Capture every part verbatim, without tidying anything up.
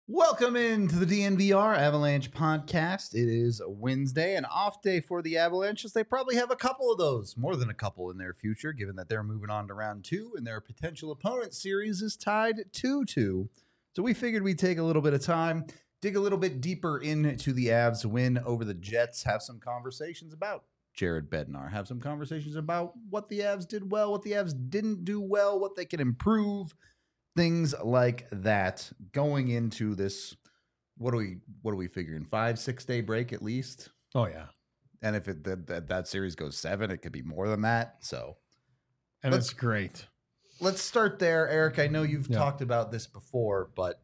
Welcome into the D N V R Avalanche podcast. It is a Wednesday, an off day for the Avalanche, as they probably have a couple of those, more than a couple in their future, given that they're moving on to round two and their potential opponent series is tied two two. So we figured we'd take a little bit of time, dig a little bit deeper into the Avs win over the Jets, have some conversations about Jared Bednar, have some conversations about what the Avs did well, what the Avs didn't do well, what they can improve. Things like that going into this. What are we? What are we figuring? Five, six day break at least. Oh yeah, and if it that that, that series goes seven, it could be more than that. So, and it's great. Let's start there, Eric. I know you've yeah. talked about this before, but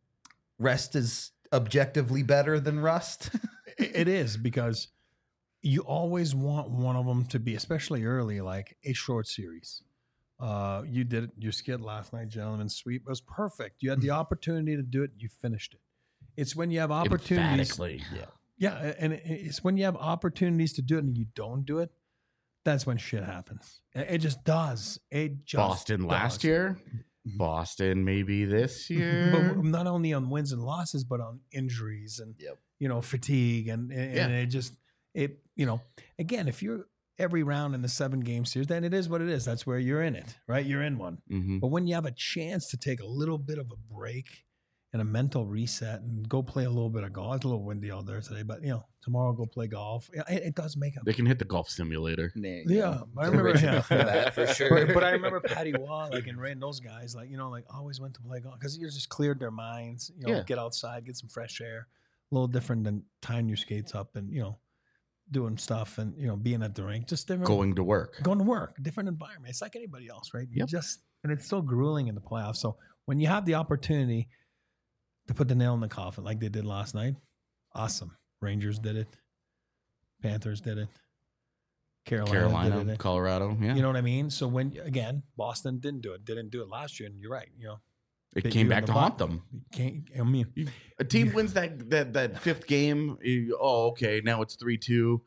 rest is objectively better than rust. It is, because you always want one of them to be, especially early, like a short series. Uh, you did it, your skid last night, gentlemen. Sweep. It was perfect. You had the opportunity to do it. You finished it. It's when you have opportunities. Emphatically. Yeah. Yeah. And it's when you have opportunities to do it and you don't do it. That's when shit happens. It just does. It just Boston does. last year. Boston maybe this year. But not only on wins and losses, but on injuries and, yep. you know, fatigue. And, and, yeah. and it just, it, you know, again, if you're, every round in the seven game series, then it is what it is. That's where you're in it, right? You're in one. Mm-hmm. But when you have a chance to take a little bit of a break and a mental reset and go play a little bit of golf, it's a little windy out there today, but you know, tomorrow go play golf. It, it does make a. They can hit the golf simulator. Yeah, yeah I remember yeah. that for sure. But, but I remember Patty Waugh, like and Ray and those guys, like you know, like always went to play golf because you just cleared their minds. You know, yeah. get outside, get some fresh air. A little different than tying your skates up and you know. Doing stuff and, you know, being at the rink, just different. Going to work. Going to work, different environment. It's like anybody else, right? You yep. just, and it's so grueling in the playoffs. So when you have the opportunity to put the nail in the coffin like they did last night, awesome. Rangers did it. Panthers did it. Carolina, Carolina did it. Colorado. Yeah. You know what I mean? So when, again, Boston didn't do it, didn't do it last year. And you're right. You know, it came back to haunt them. Can't, I mean, a team wins that that that fifth game. You, oh, okay, now it's three two.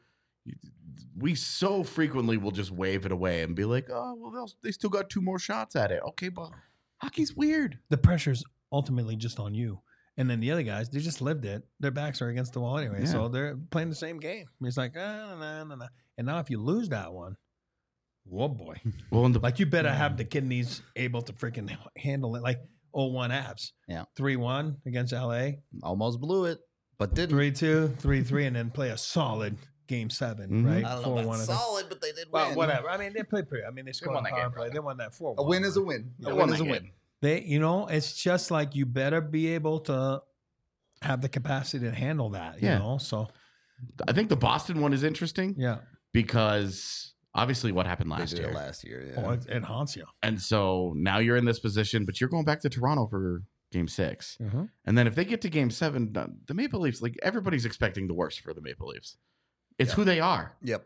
We so frequently will just wave it away and be like, oh, well, they still got two more shots at it. Okay, but hockey's weird. The pressure's ultimately just on you. And then the other guys, they just lived it. Their backs are against the wall anyway. Yeah. So they're playing the same game. It's like, ah, nah, nah, nah. And now if you lose that one, whoa, boy. Well, in the, like you better have the kidneys able to freaking handle it. Like oh one Avs. Yeah. three one against L A. Almost blew it, but didn't. three two, three three, and then play a solid game seven, Mm-hmm. right? I don't know about four one, solid, but they did win. Well, whatever. I mean, they played pretty. I mean, they scored won on that power game, play. brother. They won that four A one. win is a win. They A won win is that a win. game. They, you know, it's just like you better be able to have the capacity to handle that, you Yeah. know? So, I think the Boston one is interesting yeah. because obviously what happened They last did year. it last year. Yeah. Oh, it, it haunts you. And so now you're in this position, but you're going back to Toronto for game six. Mm-hmm. And then if they get to game seven, the Maple Leafs, like everybody's expecting the worst for the Maple Leafs. It's Yeah. who they are. Yep.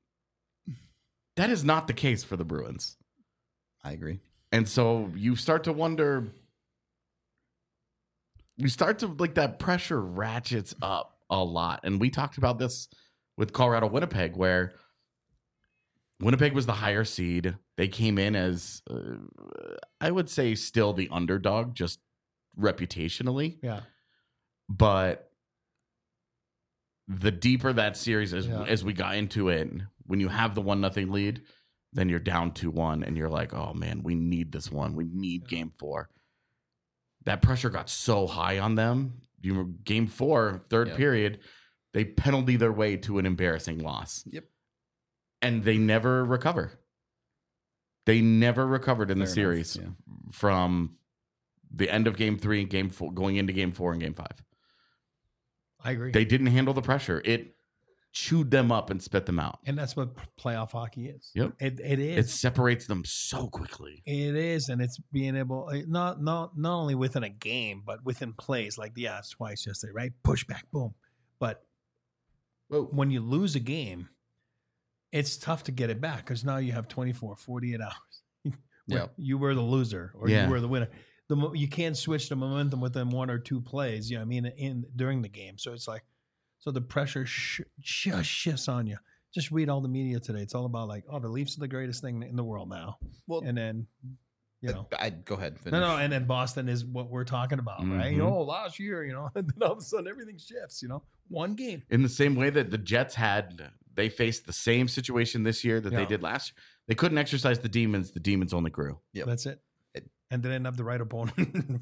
That is not the case for the Bruins. I agree. And so you start to wonder, you start to like that pressure ratchets up a lot. And we talked about this with Colorado Winnipeg, where Winnipeg was the higher seed. They came in as, uh, I would say, still the underdog, just reputationally. Yeah. But the deeper that series as Yeah. as we got into it, when you have the one nothing lead, then you're down two one, and you're like, oh man, we need this one. We need Yeah. game four. That pressure got so high on them. You were game four, third Yep. period, they penalty their way to an embarrassing loss. Yep. And they never recover. They never recovered in Fair the enough, series yeah. from the end of game three and game four, going into game four and game five. I agree. They didn't handle the pressure. It chewed them up and spit them out. and that's what p- playoff hockey is. Yep. It, it It is. separates them so quickly. It is. And it's being able, eh, not, not, not only within a game, but within plays like the Avs twice yesterday, right? Push back, boom. But Whoa. when you lose a game, it's tough to get it back because now you have twenty-four, forty-eight hours. Yep. You were the loser or Yeah. you were the winner. The mo- you can't switch the momentum within one or two plays. You know what I mean? In during the game, so it's like, so the pressure sh- just shifts on you. Just read all the media today. It's all about like, oh, the Leafs are the greatest thing in the world now. Well, And then you know. I go ahead. Finish. No, no, and then Boston is what we're talking about, right? Mhm. Oh, last year, you know, and then all of a sudden everything shifts, you know, one game. In the same way that the Jets had, they faced the same situation this year that Yeah. they did last year. They couldn't exercise the demons. The demons only grew. Yep. That's it. It- And they didn't have the right opponent.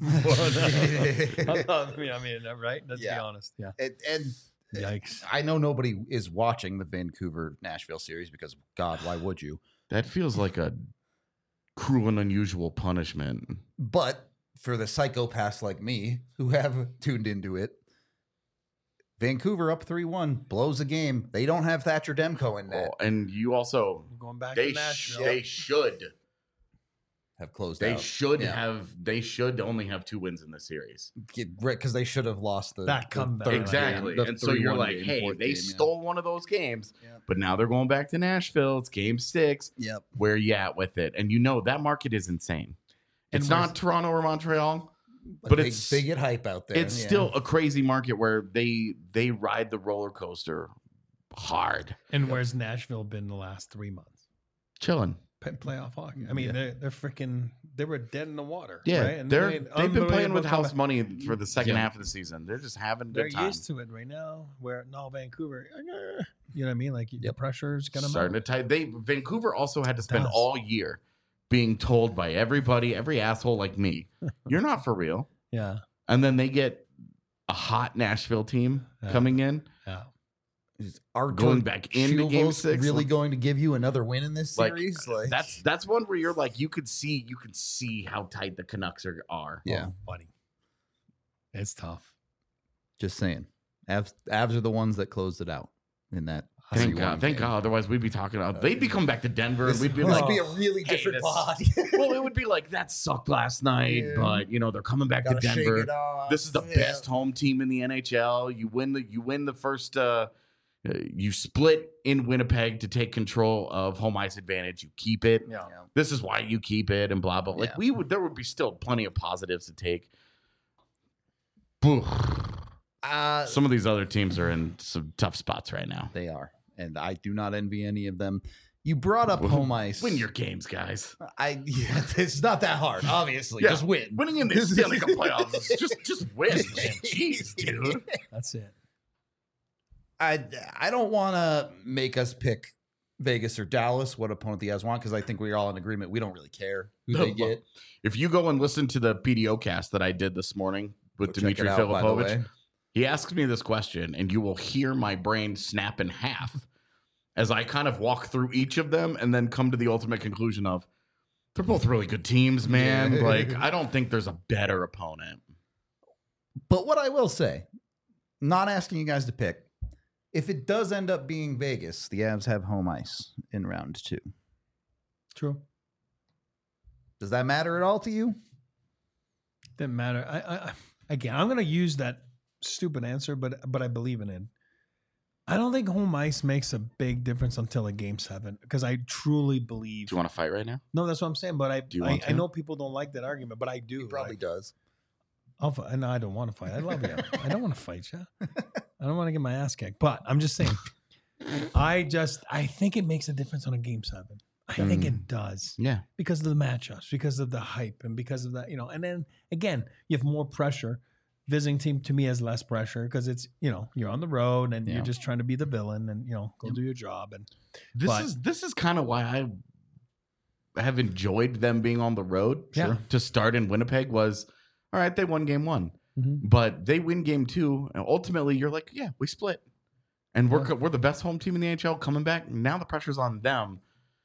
I mean, I mean, right? Let's Yeah. be honest. Yeah. and, and Yikes. I know nobody is watching the Vancouver Nashville series because God, why would you? That feels like a cruel and unusual punishment. But for the psychopaths like me who have tuned into it, Vancouver up three one, blows a game. They don't have Thatcher Demko in that. Oh, and you also, We're going back they to sh- Nashville. they should Have closed they out. should Yeah. have they should only have two wins in this series. Because they should have lost the That the comeback. third Exactly. game, the And so you're three one like, game, hey, fourth they game, yeah. stole one of those games, Yeah. but now they're going back to Nashville. It's game six. Yep. Where you at with it? And you know that market is insane. And It's where's- not Toronto or Montreal, But, But they, it's- they get hype out there. it's yeah. still a crazy market where they they ride the roller coaster hard. And where's Nashville been the last three months? Chilling. P- Playoff hockey. I mean, Yeah. they're they're freaking they were dead in the water. Yeah, right? And they're they made they've been playing with unbelievable house comeback. money for the second Yeah. half of the season. They're just having a They're good time. used to it right now. Where no Vancouver, you know what I mean? Like the Yep. pressure's gonna Starting to tie. They Vancouver also had to spend does. all year being told by everybody, every asshole like me, you're not for real. yeah, And then they get a hot Nashville team Yeah. coming in, yeah. Is Artur going back into game Shilvos six. really going to give you another win in this Like, series? Like, That's that's one where you're like, you could see you can see how tight the Canucks are. are. Yeah. Oh, buddy, it's tough. just saying. Avs, Avs are the ones that closed it out in that. Thank three one God. Thank game. God. Otherwise, we'd be talking about. They'd be coming back to Denver, and This, we'd be this like, would be a really hey, different this- pod. well, it would be like that sucked last night, Yeah. but you know they're coming back to Gotta shake Denver. it off. This is the Yeah. best home team in the N H L. You win the you win the first. Uh, uh, you split in Winnipeg to take control of home ice advantage. You keep it. Yeah. Yeah. This is why you keep it, and blah blah. Like Yeah. we would, there would be still plenty of positives to take. Boo. Uh, Some of these other teams are in some tough spots right now. they are, and I do not envy any of them. You brought up home ice. Win your games, guys. I. Yeah, it's not that hard. Obviously, Yeah. just win. Winning in the Stanley Cup playoffs is just just win. man. Jeez, dude. That's it. I I don't want to make us pick Vegas or Dallas, what opponent the Avs want, because I think we're all in agreement. We don't really care who No, they get. If you go and listen to the P D O cast that I did this morning with Go check Dmitry it out, by the Filipovich, way. he asks me this question, and you will hear my brain snap in half as I kind of walk through each of them and then come to the ultimate conclusion of they're both really good teams, man. Yeah. Like, I don't think there's a better opponent. But what I will say, not asking you guys to pick, if it does end up being Vegas, the Avs have home ice in round two. True. Does that matter at all to you? Didn't matter. I, I I- again, I'm gonna use that stupid answer, but but I believe in it. I don't think home ice makes a big difference until a game seven because I truly believe. Do you want to fight right now? No, that's what I'm saying. But I Do you I, want I to? know people don't like that argument, but I do. He probably Like, does. I'll fight. No, I don't want to fight. I love you. I don't want to fight you. I don't want to get my ass kicked. But I'm just saying. I just I think it makes a difference on a game seven. I think it does Yeah. because of the matchups, because of the hype, and because of that, you know. And then again, you have more pressure. Visiting team to me has less pressure because it's you know you're on the road and Yeah. you're just trying to be the villain and you know go Yep. do your job and This But- is this is kind of why I have enjoyed them being on the road. Yeah. To start in Winnipeg was all right. They won game one, Mhm. but they win game two, and ultimately you're like, yeah, we split, and we're Yeah. we're the best home team in the N H L coming back. Now the pressure's on them.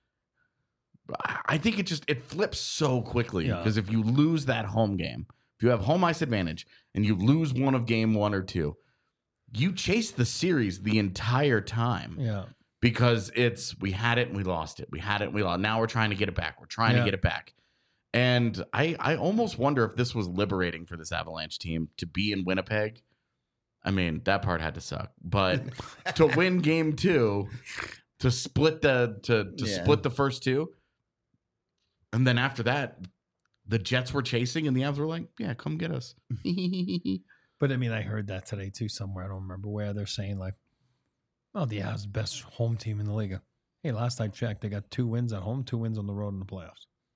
I I think it just it flips so quickly Yeah. because if you lose that home game, if you have home ice advantage and you lose one of game one or two, you chase the series the entire time yeah. because it's we had it and we lost it. We had it and we lost. Now we're trying to get it back. We're trying Yeah. to get it back. And I I almost wonder if this was liberating for this Avalanche team to be in Winnipeg. I mean, that part had to suck. But to win game two, to split the to to Yeah. split the first two, and then after that, the Jets were chasing and the Avs were like, yeah, come get us. But I mean, I heard that today too somewhere. I don't remember where they're saying like, "Oh, the Avs best home team in the league." Hey, last I checked, they got two wins at home, two wins on the road in the playoffs.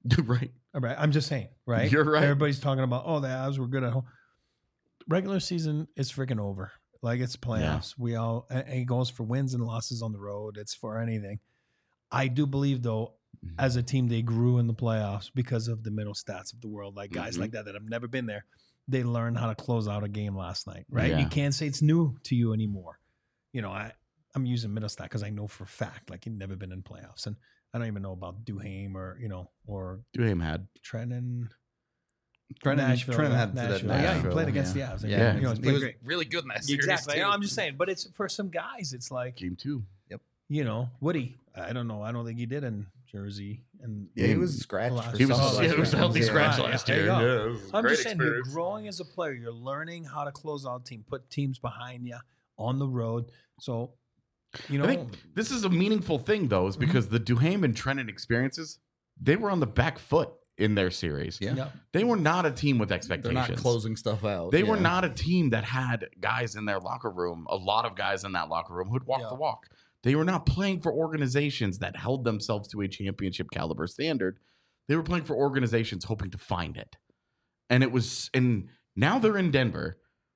Right. All right. I'm just saying, right? You're right. Everybody's talking about, oh, the Avs were good at home. Regular season is freaking over. Like it's playoffs. We all, and it goes for wins and losses on the road. It's for anything. I do believe, though, as a team, they grew in the playoffs because of the middle stats of the world. Like guys Mhm. like that that have never been there. They learned how to close out a game last night, right? Yeah. You can't say it's new to you anymore. You know, I, I'm using middle stat because I know for a fact, like he'd never been in playoffs. And I don't even know about Duhaime or, you know, or Duhaime had. Trenton. Trenton, Nashville, Trenton yeah, had to that Nashville. Yeah, he Nashville, played against yeah. the Avs. Yeah, You know, he's he played was great. really good in that series. Exactly. too. I'm just saying, but it's for some guys, it's like, Game two. you know, Woody. I don't know. I don't think he did in Jersey. And Yeah, he was scratched. Last- For He was, some of yeah, those it was a games. healthy Yeah. scratch Yeah, last there you year. go. Yeah, it was a I'm great just saying, experience. you're growing as a player. You're learning how to close out team, put teams behind you on the road. So, you know, I think this is a meaningful thing, though, is because the Duhaime and Trenton experiences, they were on the back foot in their series. Yeah. yeah. They were not a team with They're expectations. not closing stuff out. They were yeah. not a team that had guys in their locker room, a lot of guys in that locker room who'd walk Yeah. the walk. They were not playing for organizations that held themselves to a championship caliber standard. They were playing for organizations hoping to find it. And it was, and now they're in Denver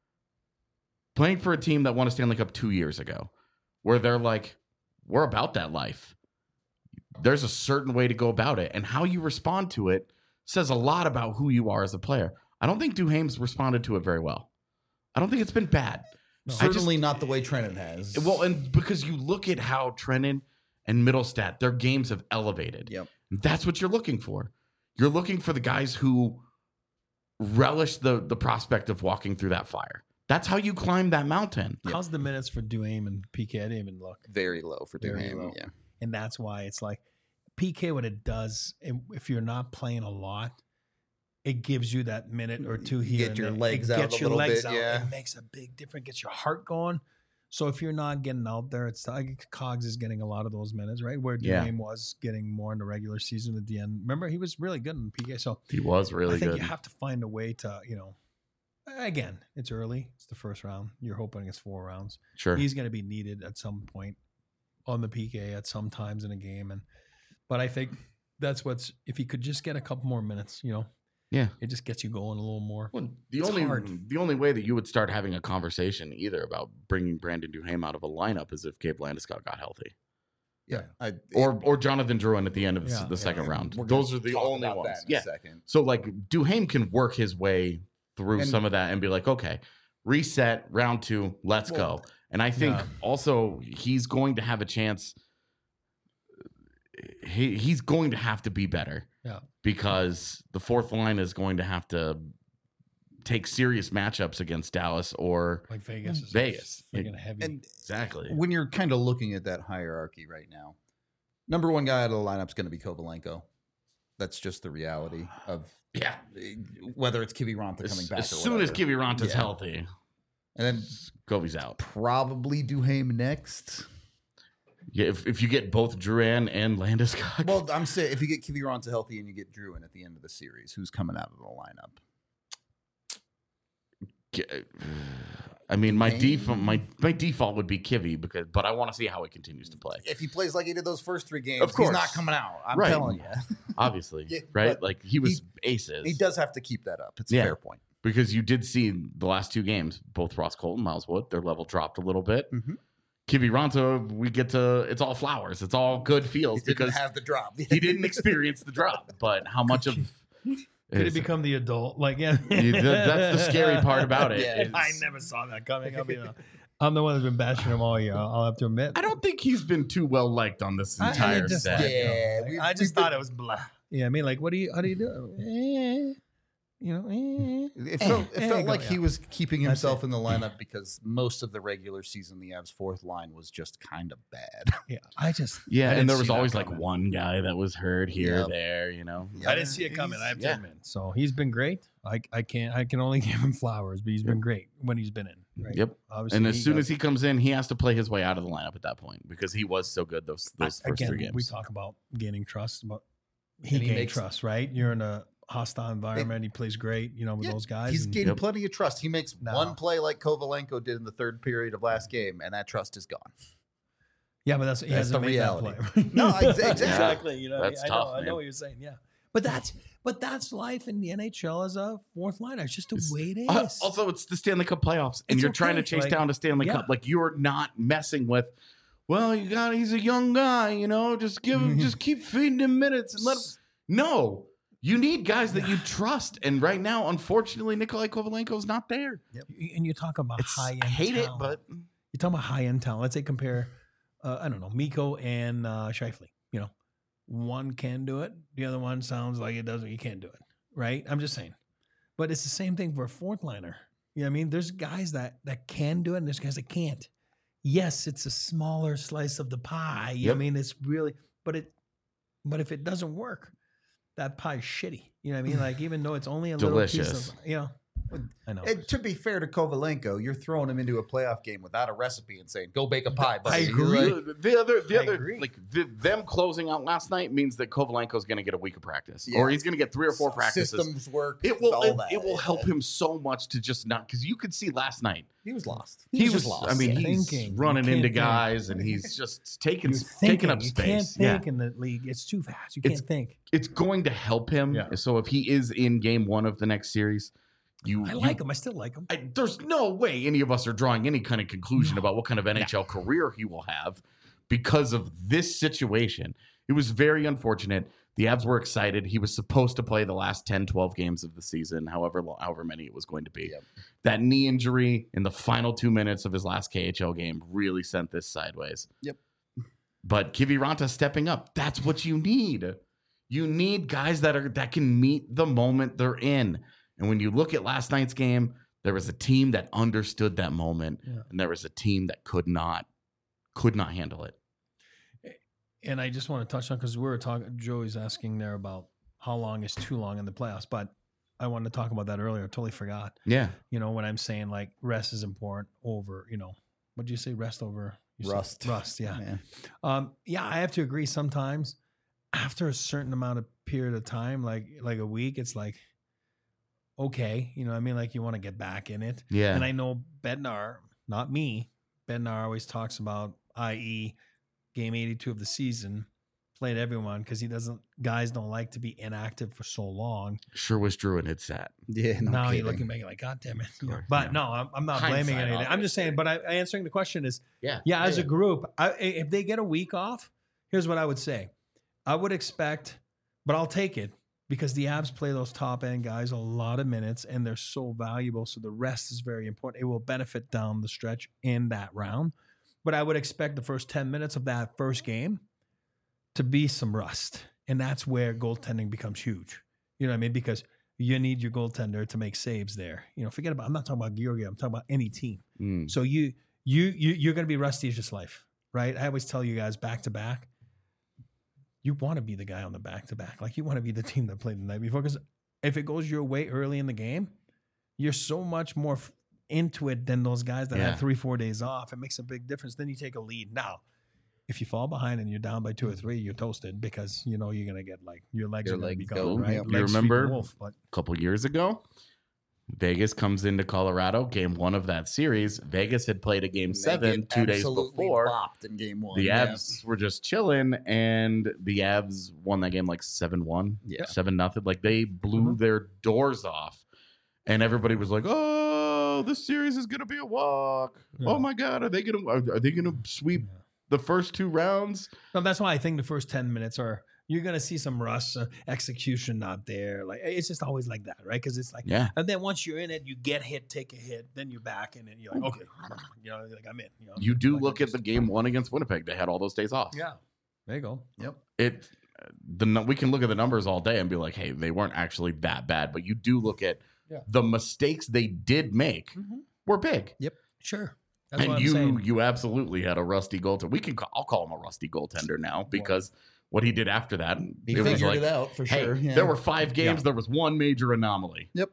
playing for a team that won a Stanley Cup two years ago, where they're like, we're about that life. There's a certain way to go about it, and how you respond to it says a lot about who you are as a player. I don't think Duhaime's responded to it very well. I don't think it's been bad. No. I just- Certainly not the way Trenton has. Well, and because you look at how Trenton and Middlestat, their games have elevated. Yep. That's what you're looking for. You're looking for the guys who relish the the prospect of walking through that fire. That's how you climb that mountain. Yep. How's the minutes for Duhaime and P K? I didn't even look. very low for Very Duhaime. low. Yeah. And that's why it's like P K, what it does, and if you're not playing a lot, it gives you that minute or two You here. get and your there. legs it out gets a your little legs bit, out. yeah. It makes a big difference. Gets your heart going. So if you're not getting out there, it's like Cogs is getting a lot of those minutes, right? Where Yeah. Duhaime was getting more in the regular season at the end. Remember, he was really good in P K. So He was really I think good. you have to find a way to, you know, again, it's early. It's the first round. You're hoping it's four rounds. Sure. He's going to be needed at some point on the P K at some times in a game. And but I think that's what's if he could just get a couple more minutes, you know, Yeah. it just gets you going a little more. Well, the It's only hard. the only way that you would start having a conversation either about bringing Brandon Duhaime out of a lineup is if Gabe Landeskog got healthy, Yeah. I, or or Jonathan Drouin at the end of Yeah, the yeah. second round. we're gonna Those are the talk only about ones. that in Yeah. a second. So like Duhaime can work his way through And- some of that and be like, okay, reset round two, let's Well, go. And I think yeah. also he's going to have a chance. He he's going to have to be better. Yeah. Because the fourth line is going to have to take serious matchups against Dallas or Like Vegas is Vegas. freaking heavy. And exactly. when you're kind of looking at that hierarchy right now, number one guy out of the lineup is going to be Kovalenko. That's just the reality of Yeah. whether it's Kiviranta coming As, back. as or soon as whatever. Kiviranta's Yeah. healthy, and then Kobe's out. probably Duhaime next. Yeah, if, if you get both Drouin and Landeskog. Well, I'm saying if you get Kiviranta healthy and you get Drouin at the end of the series, who's coming out of the lineup? I mean, my Duhaime? default my my default would be Kivy because, but I want to see how he continues to play. If he plays like he did those first three games, Of course. he's not coming out. I'm Right. telling you. Obviously, Yeah, right? but Like he was he- aces. He does have to keep that up. It's Yeah. a fair point. because you did see the last two games, both Ross Colton, Miles Wood, their level dropped a little bit. Mhm. Kiviranta, we get to it's all flowers, it's all good He feels didn't because have the drop. he didn't experience the drop. But how much of Could it is- become the adult? Like, yeah, Yeah, that- that's the scary part about it. Yeah, is- I never saw that coming. I'll be the, I'm the one that's been bashing him all year. I'll, I'll have to admit. I don't think he's been too well liked on this I- I entire just set. thought, you know, Yeah, like, we- I just we've thought been- it was blah. Yeah, I mean, like, what do you? How do you do? Eh, you know, eh. It felt, it There felt you go, like he yeah. was keeping That's himself it. in the lineup because most of the regular season, the Avs' fourth line was just kind of bad. Yeah, I just Yeah, I and didn't there was see that always like coming. one guy that was hurt here, Yep. there, you know. I didn't see it coming. I have to yeah. admit. So he's been great. I I can't. I can only give him flowers, but he's been great when he's been in. Right? Yep. Obviously, And as soon got- as he comes in, he has to play his way out of the lineup at that point because he was so good those those I- first again, three games. we talk about gaining trust, but he And he gained makes- trust, right? You're in a hostile environment. He plays great, you know, with Yeah, those guys. He's and- getting Yep. plenty of trust. He makes No. one play like Kovalenko did in the third period of last game, and that trust is gone. yeah, but that's he That's hasn't the made reality. that play. No, ex- exactly. exactly. You know, That's I tough, know, I man. know what you're saying. Yeah, But that's but that's life in the N H L as a fourth liner. It's just the It's- way it is. Uh, also, it's the Stanley Cup playoffs, and It's you're trying to okay, chase like, down the Stanley yeah. Cup. Like you're not messing with. Well, you got. He's a young guy, you know. Just give him. just keep feeding him minutes and let him. No, you need guys that you trust. And right now, unfortunately, Nikolai Kovalenko is not there. And you talk about It's, high end. I hate talent. it, but You're talking about high end talent. Let's say compare, uh, I don't know, Miko and uh, Scheifele. You know, one can do it. The other one sounds like it doesn't. You can't do it, right? I'm just saying. But it's the same thing for a fourth liner. You know what I mean? There's guys that that can do it, and there's guys that can't. Yes, it's a smaller slice of the pie. You know what I Yep. mean? It's really, but it, but if it doesn't work, that pie is shitty. You know what I mean? Like even though it's only a little Delicious. piece of, you know, I know. And to be fair to Kovalenko, you're throwing him into a playoff game without a recipe and saying, "Go bake a pie." buddy." I You're agree. like, the other, the I other, agree. like the, them closing out last night means that Kovalenko's going to get a week of practice, Yeah. or he's going to get three or four practices. Systems work. It will. all It, that. it will help Yeah. him so much to just not because you could see last night He was lost. he, was. just lost. I mean, Yeah. he's Thinking. You running can't into think. guys, and he's just taking You're taking thinking. up You can't space. Yeah, think in the league. It's too fast. You It's- can't think. it's going to help him. Yeah. So if he is in game one of the next series, you I you- like him. I still like him. I, there's no way any of us are drawing any kind of conclusion No. about what kind of N H L career he will have because of this situation. It was very unfortunate. The Avs were excited. He was supposed to play the last ten, twelve games of the season, however long, however many it was going to be. Yep. That knee injury in the final two minutes of his last K H L game really sent this sideways. Yep. But Kiviranta stepping up, that's what you need. You need guys that are that can meet the moment they're in. And when you look at last night's game, there was a team that understood that moment, Yeah. and there was a team that could not, could not handle it. And I just want to touch on because we were talking. Joey's asking there about how long is too long in the playoffs, but I wanted to talk about that earlier. I totally forgot. Yeah, You know, when I'm saying like rest is important over, you know, what did you say? Rest over you said- Rust. Rust. Yeah. Man. Um, yeah, I have to agree. Sometimes after a certain amount of period of time, like like a week, it's like, okay, you know what I mean? Like you want to get back in it. yeah. And I know Bednar, not me, Bednar always talks about, that is, game eighty-two of the season, played everyone because he doesn't, guys don't like to be inactive for so long. Sure wish Druin had sat. Yeah. No now kidding. you're looking back like, God damn it. You know, course, but yeah. no, I'm, I'm not blaming Hindsight, anything. I'm just saying, obviously. but I, answering the question is, Yeah, yeah, as a group, I, if they get a week off, here's what I would say. I would expect, but I'll take it because the Avs play those top end guys a lot of minutes and they're so valuable. So the rest is very important. It will benefit down the stretch in that round. But I would expect the first ten minutes of that first game to be some rust. And that's where goaltending becomes huge. You know what I mean? Because you need your goaltender to make saves there. You know, forget about, I'm not talking about Georgiev, I'm talking about any team. Mm. So you you you you're going to be rusty as just life, right? I always tell you guys back to back. You want to be the guy on the back to back, like you want to be the team that played the night before. Because if it goes your way early in the game, you're so much more f- into it than those guys that Yeah. have three four days off. It makes a big difference. Then you take a lead. Now, if you fall behind and you're down by two or three, you're toasted because you know you're going to get like your legs Your are going to be legs gone, go. right? Yep. You Legs sweep the remember- wolf, but A couple years ago, Vegas comes into Colorado, game one of that series. Vegas had played a game And they seven get two days absolutely before. bopped in game one. The Yeah. Avs were just chilling, and the Avs won that game like seven one, Yeah. seven nothing. Like they blew Mhm. their doors off, and everybody was like, "Oh, this series is gonna be a walk. Yeah. Oh my god, are they gonna are, are they gonna sweep Yeah. the first two rounds?" No, that's why I think the first ten minutes are you're gonna see some rust, uh, execution not there. Like it's just always like that, right? Because it's like, Yeah, and then once you're in it, you get hit, take a hit, then you're back in it. You're like, okay, you know, like I'm in. You, know, you do like, look I at the just- game one against Winnipeg. They had all those days off. Yeah, there you go. Yep. It the nu- we can look at the numbers all day and be like, hey, they weren't actually that bad. But you do look at Yeah. the mistakes they did make were big. Sure, that's and what I'm you saying. you absolutely had a rusty goaltender. We can call, I'll call him a rusty goaltender now because what he did after that, He it was figured like, it out for hey, sure. Yeah. there were five games. Yeah. There was one major anomaly. Yep.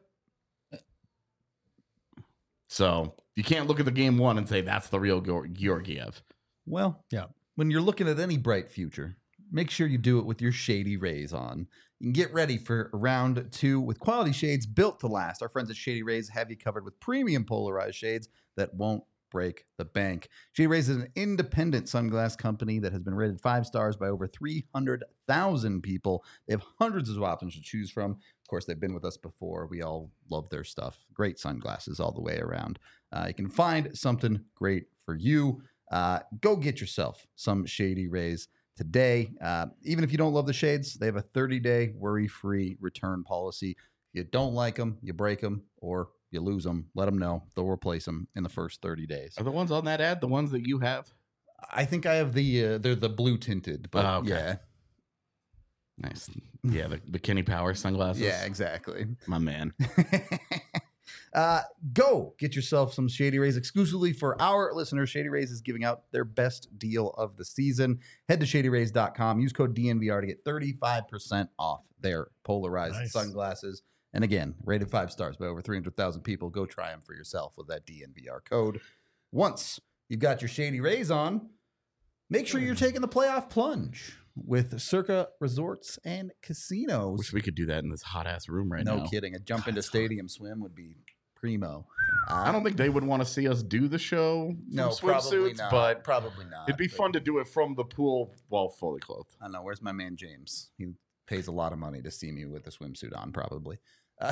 So you can't look at the game one and say that's the real Geor- Georgiev. Well, Yeah. when you're looking at any bright future, make sure you do it with your Shady Rays on. You can get ready for round two with quality shades built to last. Our friends at Shady Rays have you covered with premium polarized shades that won't break the bank. Shady Rays is an independent sunglass company that has been rated five stars by over three hundred thousand people. They have hundreds of options to choose from. Of course, they've been with us before. We all love their stuff. Great sunglasses all the way around. Uh, you can find something great for you. Uh, go get yourself some Shady Rays today. Uh, even if you don't love the shades, they have a thirty-day worry-free return policy. If you don't like them, you break them, or you lose them, let them know. They'll replace them in the first thirty days. Are the ones on that ad the ones that you have? I think I have the, uh, they're the blue tinted, but Oh, okay. yeah. Nice. Yeah, the, the Kenny Power sunglasses. Yeah, exactly. My man. uh, go get yourself some Shady Rays exclusively for our listeners. Shady Rays is giving out their best deal of the season. Head to shady rays dot com. Use code D N V R to get thirty-five percent off their polarized Nice. sunglasses. And again, rated five stars by over three hundred thousand people. Go try them for yourself with that D N V R code. Once you've got your Shady Rays on, make sure you're taking the playoff plunge with Circa Resorts and Casinos. Wish we could do that in this hot ass room right no now. kidding. A jump God, into it's hot. stadium swim would be primo. Uh, I don't think they would want to see us do the show from no, probably swimsuits, not. but probably not. it'd be but fun to do it from the pool while fully clothed. I don't know. Where's my man James? He pays a lot of money to see me with a swimsuit on, probably. Uh,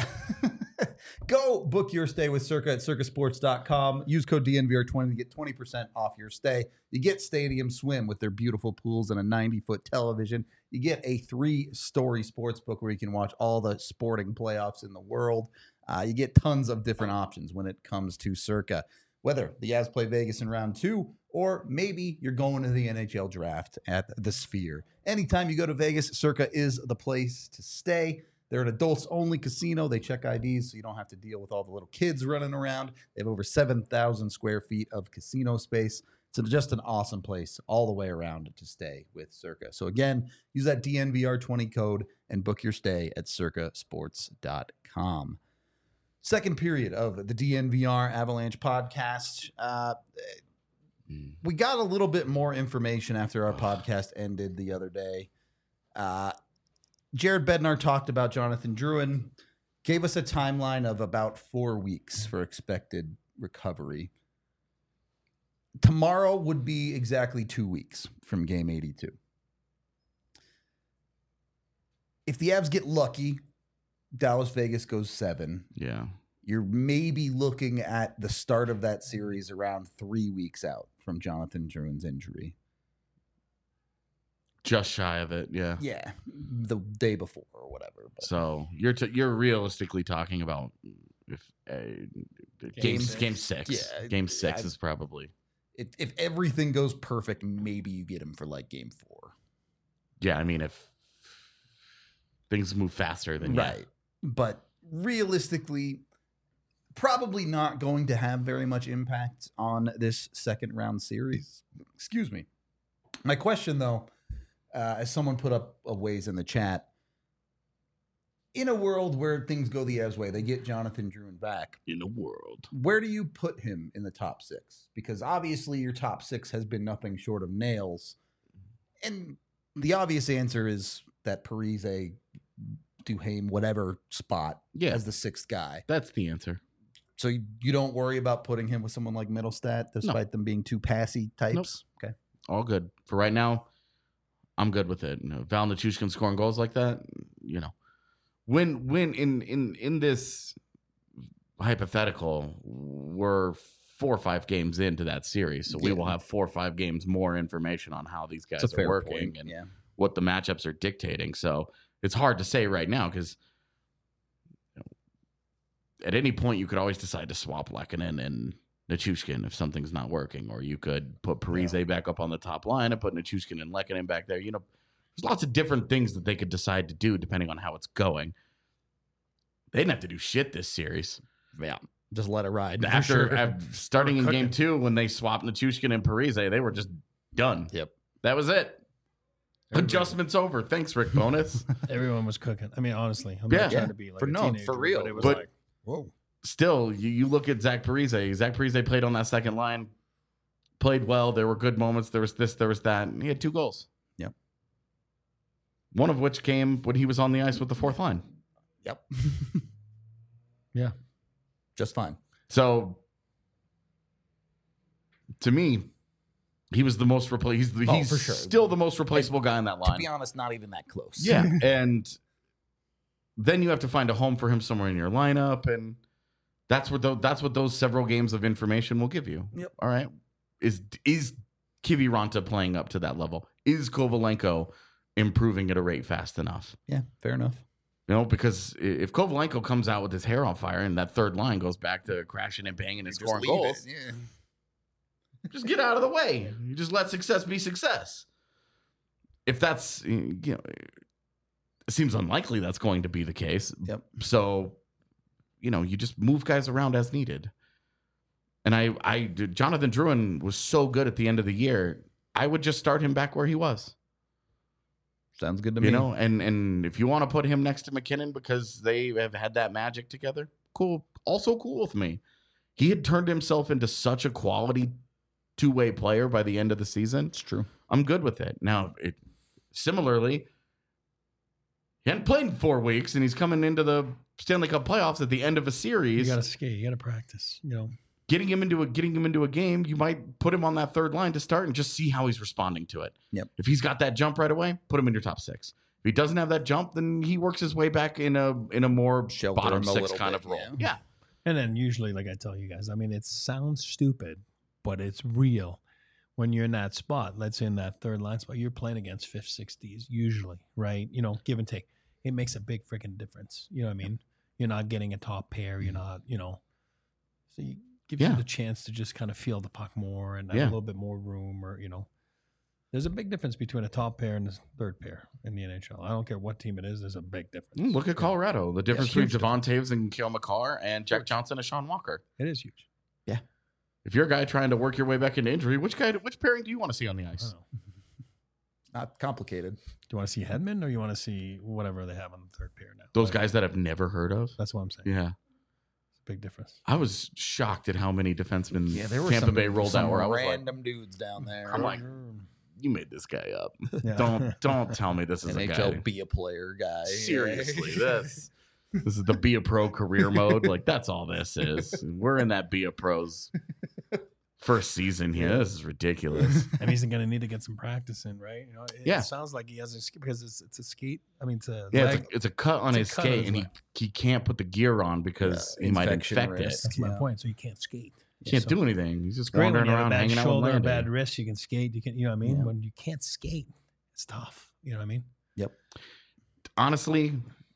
go book your stay with Circa at circa sports dot com. Use code D N V R twenty to get twenty percent off your stay. You get Stadium Swim with their beautiful pools and a ninety-foot television. You get a three-story sports book where you can watch all the sporting playoffs in the world. Uh, you get tons of different options when it comes to Circa. Whether the Avs play Vegas in round two, or maybe you're going to the N H L draft at the Sphere. Anytime you go to Vegas, Circa is the place to stay. They're an adults-only casino. They check I Ds so you don't have to deal with all the little kids running around. They have over seven thousand square feet of casino space. It's just an awesome place all the way around to stay with Circa. So again, use that D N V R twenty code and book your stay at circa sports dot com. Second period of the D N V R Avalanche podcast. Uh, we got a little bit more information after our podcast ended the other day. Uh, Jared Bednar talked about Jonathan Drouin, gave us a timeline of about four weeks for expected recovery. Tomorrow would be exactly two weeks from game eighty-two. If the Avs get lucky, Dallas Vegas goes seven. Yeah. You're maybe looking at the start of that series around three weeks out from Jonathan Drouin's injury. Just shy of it, yeah. Yeah, the day before or whatever. But. So you're t- you're realistically talking about if uh, game game six. six. Game six, Yeah, game six I- is probably If, if everything goes perfect, maybe you get him for like game four. yeah. I mean, if things move faster, then yeah. Right. But realistically, probably not going to have very much impact on this second round series. Excuse me. My question, though, uh, as someone put up a ways in the chat, in a world where things go the Avs way, they get Jonathan Drouin back. in the world. Where do you put him in the top six? Because obviously your top six has been nothing short of nails. And the obvious answer is that Parise, Duhaime, whatever spot Yeah, as the sixth guy. that's the answer. So you, you don't worry about putting him with someone like Middlestat, despite them being two passy types? Okay. All good for right now. I'm good with it. You know, Val Nichushkin scoring goals like that, you know, when when in in in this hypothetical, we're four or five games into that series, so we Yeah. will have four or five games more information on how these guys It's a are fair working point. and Yeah. what the matchups are dictating. So it's hard to say right now because you know, at any point you could always decide to swap Lehkonen and Nichushkin if something's not working, or you could put Parise Yeah. back up on the top line and put Nichushkin and Lehkonen back there. You know, there's lots of different things that they could decide to do depending on how it's going. They didn't have to do shit this series. Yeah. Just let it ride. for After, sure. after starting in We're game cooking. two, when they swapped Nichushkin and Parise, they were just done. Yep. That was it. Everybody- Adjustments over. Thanks, Rick Bonus. Everyone was cooking. I mean, honestly, I'm Yeah. not trying Yeah. to be like For- a no, teenager, for real. But it was But- like, whoa. Still, you, you look at Zach Parise. Zach Parise played on that second line, played well. There were good moments. There was this, there was that. And he had two goals. Yep. One of which came when he was on the ice with the fourth line. Yep. Yeah. Just fine. So to me, he was the most repla- He's the, Oh, he's for sure. still the most replaceable guy in that To line. be honest, not even that close. Yeah, and then you have to find a home for him somewhere in your lineup, and that's what those, that's what those several games of information will give you. Yep. All right. Is is Kiviranta playing up to that level? Is Kovalenko improving at a rate fast enough? Yeah, fair enough. You know, because if Kovalenko comes out with his hair on fire and that third line goes back to crashing and banging and Just scoring leave goals, it, Yeah. just get out of the way. You just let success be success. If that's, you know, it seems unlikely that's going to be the case. Yep. So, you know, you just move guys around as needed. And I, I, Jonathan Drouin was so good at the end of the year. I would just start him back where he was. Sounds good to You me. know, and and if you want to put him next to McKinnon because they have had that magic together, cool. Also cool with me. He had turned himself into such a quality two-way player by the end of the season. It's true. I'm good with it. Now, it, similarly, he hadn't played in four weeks, and he's coming into the Stanley Cup playoffs at the end of a You series. got to skate. You got to practice. You know. Getting him into a getting him into a game, you might put him on that third line to start and just see how he's responding to it. Yep. If he's got that jump right away, put him in your top six. If he doesn't have that jump, then he works his way back in a in a more Shelter bottom him a six little kind bit, of role. yeah. Yeah. And then usually, like I tell you guys, I mean, it sounds stupid, but it's real. When you're in that spot, let's say in that third line spot, you're playing against fifth, sixth Ds usually, right? You know, give and take. It makes a big freaking difference. You know what I mean? You're not getting a top pair. You're not, you know. So you gives Yeah. you the chance to just kind of feel the puck more and have Yeah. a little bit more room, or you know. There's a big difference between a top pair and a third pair in the N H L. I don't care what team it is. There's a big difference. Mm, Look at Colorado. The difference between huge Javon Taves and Kale McCarr and Jack Huge. Johnson and Sean Walker. It is huge. If you're a guy trying to work your way back into injury, which guy, which pairing do you want to see on the I ice? don't know. Not complicated. Do you want to see Hedman or you want to see whatever they have on the third pair now? Those Whatever. guys that I've never heard of. That's what I'm saying. Yeah. It's a big difference. I was shocked at how many defensemen Yeah, there were Tampa some, Bay rolled some out where I was like, random dudes down there. I'm like, you made this guy up. Yeah. Don't don't tell me this is N a H guy. L be a player guy. Seriously, this this is the be a pro career mode. Like that's all this is. We're in that be a pros first season here. This is ridiculous. And he's going to need to get some practice in, right? You know, it, Yeah. it sounds like he has a sk- because it's, it's a skate. I mean, it's a Yeah, leg. it's a, it's a cut on It's his a cut on skate, his and he leg. he can't put the gear on because Yeah, he might infection infect risk. it. That's my yeah. point. So you can't skate. He can't So- do anything. He's just Great when wandering you have a around bad hanging out with shoulder, a Landy. bad wrist. You can skate. You can, you know what I mean? Yeah. When you can't skate, it's tough. You know what I mean? Yep. Honestly,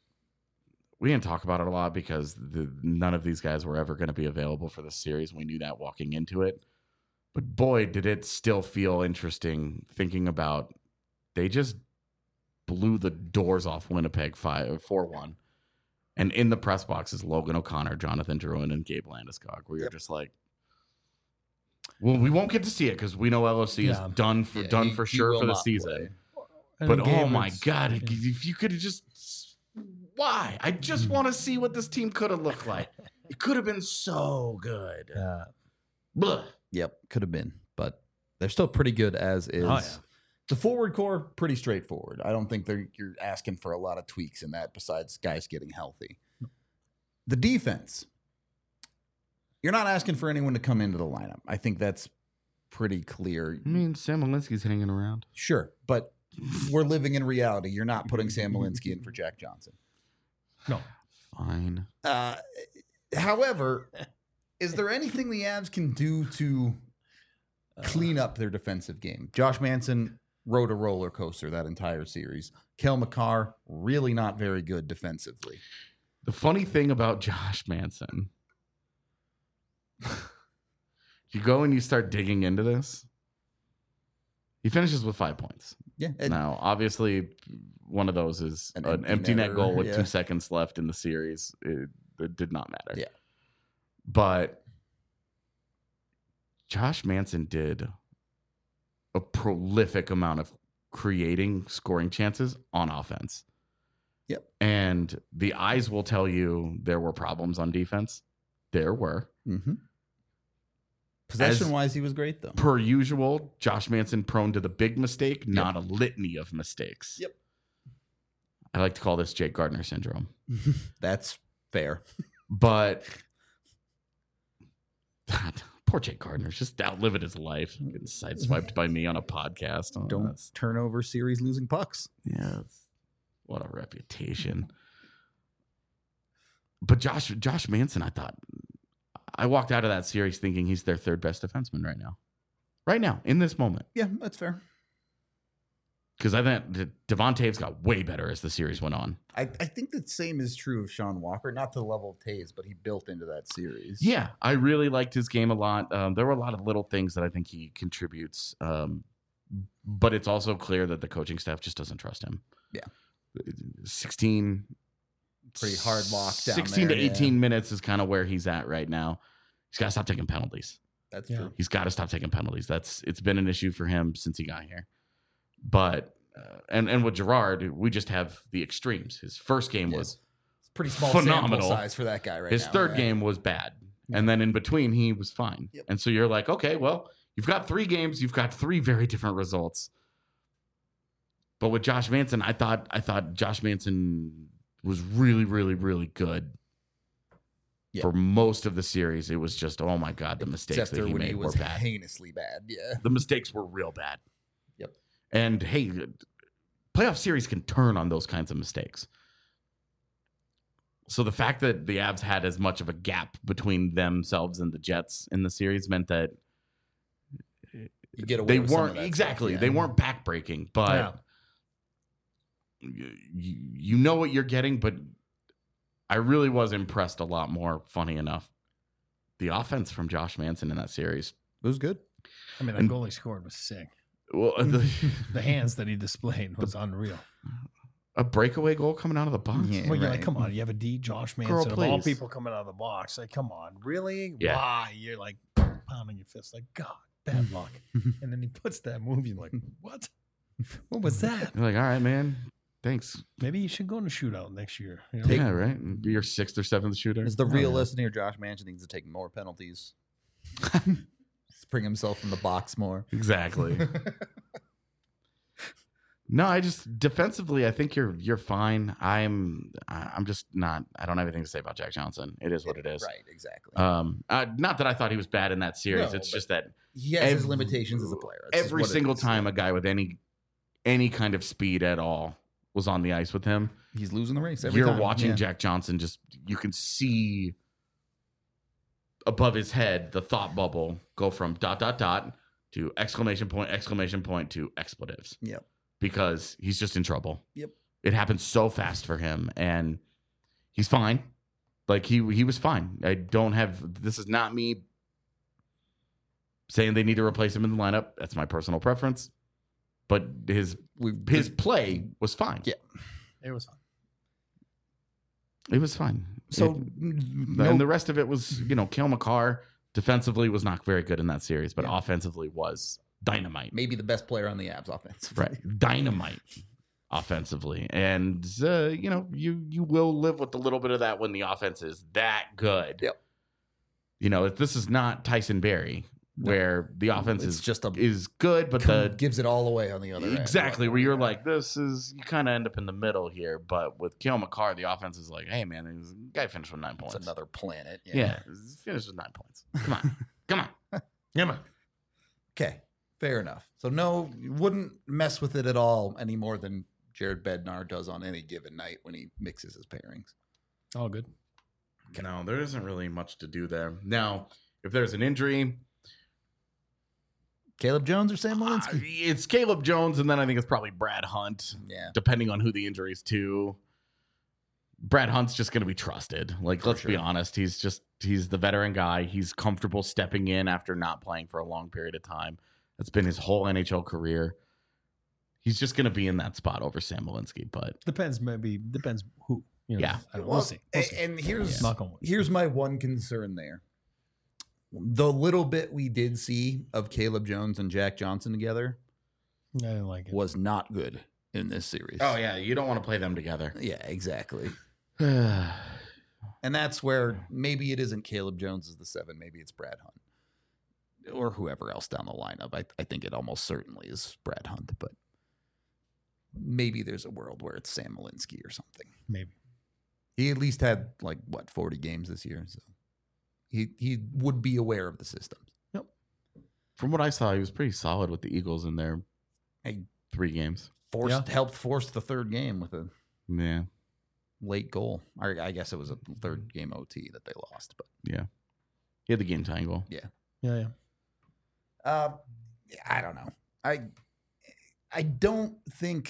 we didn't talk about it a lot because the, none of these guys were ever going to be available for the series. We knew that walking into it. But boy, did it still feel interesting thinking about they just blew the doors off Winnipeg five four one. And in the press box is Logan O'Connor, Jonathan Drouin, and Gabe Landeskog. Where you're Yep. just like, well, we won't get to see it because we know L O C Yeah. is done for Yeah, done he- for he sure will for the not season. play. And But in game, oh my it's- god, yeah. if you could have just why? I just want to see what this team could have looked like. It could have been so good. Yeah. Blah. Yep, could have been, but they're still pretty good as is. Oh, yeah. The forward core pretty straightforward. I don't think they're you're asking for a lot of tweaks in that besides guys getting healthy. The defense. You're not asking for anyone to come into the lineup. I think that's pretty clear. I mean, Sam Malinsky's hanging around. Sure, but we're living in reality. You're not putting Sam Malinsky in for Jack Johnson. No. Fine. Uh, however, is there anything the Avs can do to clean up their defensive game? Josh Manson rode a roller coaster that entire series. Kel McCarr, really not very good defensively. The funny thing about Josh Manson, you go and you start digging into this, he finishes with five points. Yeah. and- Now, obviously, one of those is An an, empty empty net netter, goal with yeah. two seconds left in the series. It, it did not matter. Yeah. But Josh Manson did a prolific amount of creating scoring chances on offense. Yep. And the eyes will tell you there were problems on defense. There were. Mm-hmm. Possession wise, he was great, though. Per usual, Josh Manson prone to the big mistake, not a litany of mistakes. Yep. I like to call this Jake Gardner syndrome. That's fair. But poor Poor Jake Gardner's just outliving his life. Getting sideswiped by me on a podcast. Oh, Don't that's- turn over series losing pucks. Yeah. What a reputation. But Josh Josh Manson, I thought, I walked out of that series thinking he's their third best defenseman right now. Right now, in this moment. Yeah, that's fair. Because I think De- Devon Taves got way better as the series went on. I, I think the same is true of Sean Walker, not to the level of Taves, but he built into that series. Yeah, I really liked his game a lot. Um, there were a lot of little things that I think he contributes. Um, but it's also clear that the coaching staff just doesn't trust him. Yeah. sixteen Pretty hard lockdown sixteen there, to eighteen minutes is kind of where he's at right now. He's got to stop taking penalties. That's Yeah. true. He's got to stop taking penalties. That's it's been an issue for him since he got here. But uh, and and with Gerard, we just have the extremes. His first game Yeah. was It's pretty small phenomenal. sample size for that guy right his now. third right? game was bad, and then in between he was fine. Yep. And so you're like, okay, well, you've got three games, you've got three very different results. But with Josh Manson, I thought I thought Josh Manson was really, really, really good. Yeah. For most of the series, it was just, oh my god, the mistakes Except that for he when made he was were bad. heinously bad. Yeah. The mistakes were real bad. Yep. And hey, playoff series can turn on those kinds of mistakes. So the fact that the Avs had as much of a gap between themselves and the Jets in the series meant that You get away they with some of weren't that exactly stuff, they yeah. weren't backbreaking, but Yeah. you, you know what you're getting. But I really was impressed a lot more. Funny enough, the offense from Josh Manson in that series. It was good. I mean, the And- goal he scored was sick. Well, the, The hands that he displayed was unreal. a breakaway goal coming out of the box. Yeah. Well, you're like, right. come on, you have a D, Josh Manson, Girl, of all please. people coming out of the box. Like, come on, really? Yeah. Why? You're like pounding your fist, like, God, bad luck. And then he puts that move, you're like, what? What was that? You're like, all right, man. Thanks. Maybe you should go in a shootout next year. You know? Take- Yeah, right. Be your sixth or seventh shooter. Is the Oh, real yeah. listener Josh Manson needs to take more penalties. Spring himself in the box more. Exactly. No, I just defensively, I think you're you're fine. I'm I- I'm just not. I don't have anything to say about Jack Johnson. It is what it is. Right, exactly. Um, uh, not that I thought he was bad in that series. No, it's but just that he has his ev- limitations as a player. That's just every what it single is. time a guy with any any kind of speed at all was on the ice with him, He's losing the race every you're time. watching Yeah. Jack Johnson. Just you can see above his head the thought bubble go from dot dot dot to exclamation point exclamation point to expletives. Yep. Because he's just in trouble. Yep. It happened so fast for him, and he's fine. Like he he was fine. I don't have. This is not me saying they need to replace him in the lineup. That's my personal preference. But his We, his play was fine. Yeah. It was fun. It was fine. so It- no, and the rest of it was, you know, Cale Makar defensively was not very good in that series, but Yeah. offensively was dynamite. maybe the best player on the Avs offense. Right, dynamite offensively, and uh, you know, you you will live with a little bit of that when the offense is that good. Yep. You know, if this is not Tyson Berry, No. where the offense It's is just a is good, but com- the gives it all away on the other end. exactly where you're like, this is you kind of end up in the middle here. But with Cale Makar, the offense is like, hey man, this guy finished with nine It's points. another planet. Yeah, finished with nine points. Come on, come on. Yeah, man. Okay. Fair enough. So no, you wouldn't mess with it at all any more than Jared Bednar does on any given night when he mixes his pairings. All good. No, there isn't really much to do there. Now, if there's an injury, Caleb Jones or Sam uh, Malinsky? it's Caleb Jones, and then I think it's probably Brad Hunt, yeah. depending on who the injury is to. Brad Hunt's just going to be trusted. Like, For let's be sure. honest. He's just, he's the veteran guy. He's comfortable stepping in after not playing for a long period of time. That's been his whole N H L career. He's just going to be in that spot over Sam Malinsky, but Depends, maybe depends who. You know, Yeah. I don't- Well, we'll see. We'll a- see. and here's Knock on wood. here's my one concern there. The little bit we did see of Caleb Jones and Jack Johnson together I didn't like it. was not good in this series. oh yeah, you don't want to play them together. Yeah, exactly. yeah, And that's where maybe it isn't Caleb Jones as the seven, maybe it's Brad Hunt. Or whoever else down the lineup. I, I think it almost certainly is Brad Hunt, but maybe there's a world where it's Sam Malinsky or something. Maybe. He at least had like what forty games this year, so he he would be aware of the systems. from what I saw, he was pretty solid with the Eagles in their Hey. three games. Forced Yeah. helped force the third game with a Yeah, late goal. Or I guess it was a third game O T that they lost, but yeah. He had the game tying goal. Yeah, yeah. uh, I don't know. I I don't think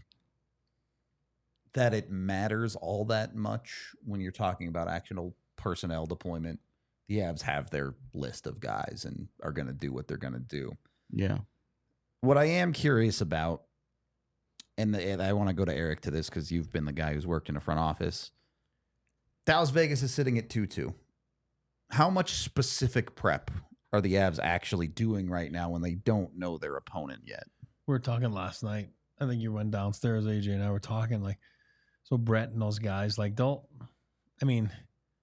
that it matters all that much when you're talking about actual personnel deployment. The Avs have their list of guys and are going to do what they're going to do. Yeah. What I am curious about, and, the, and I want to go to Eric to this because you've been the guy who's worked in a front office. Dallas Vegas is sitting at two two. How much specific prep are the Avs actually doing right now when they don't know their opponent yet? We were talking last night. I think you went downstairs, A J and I were talking like, so Brett and those guys, like, don't, I mean,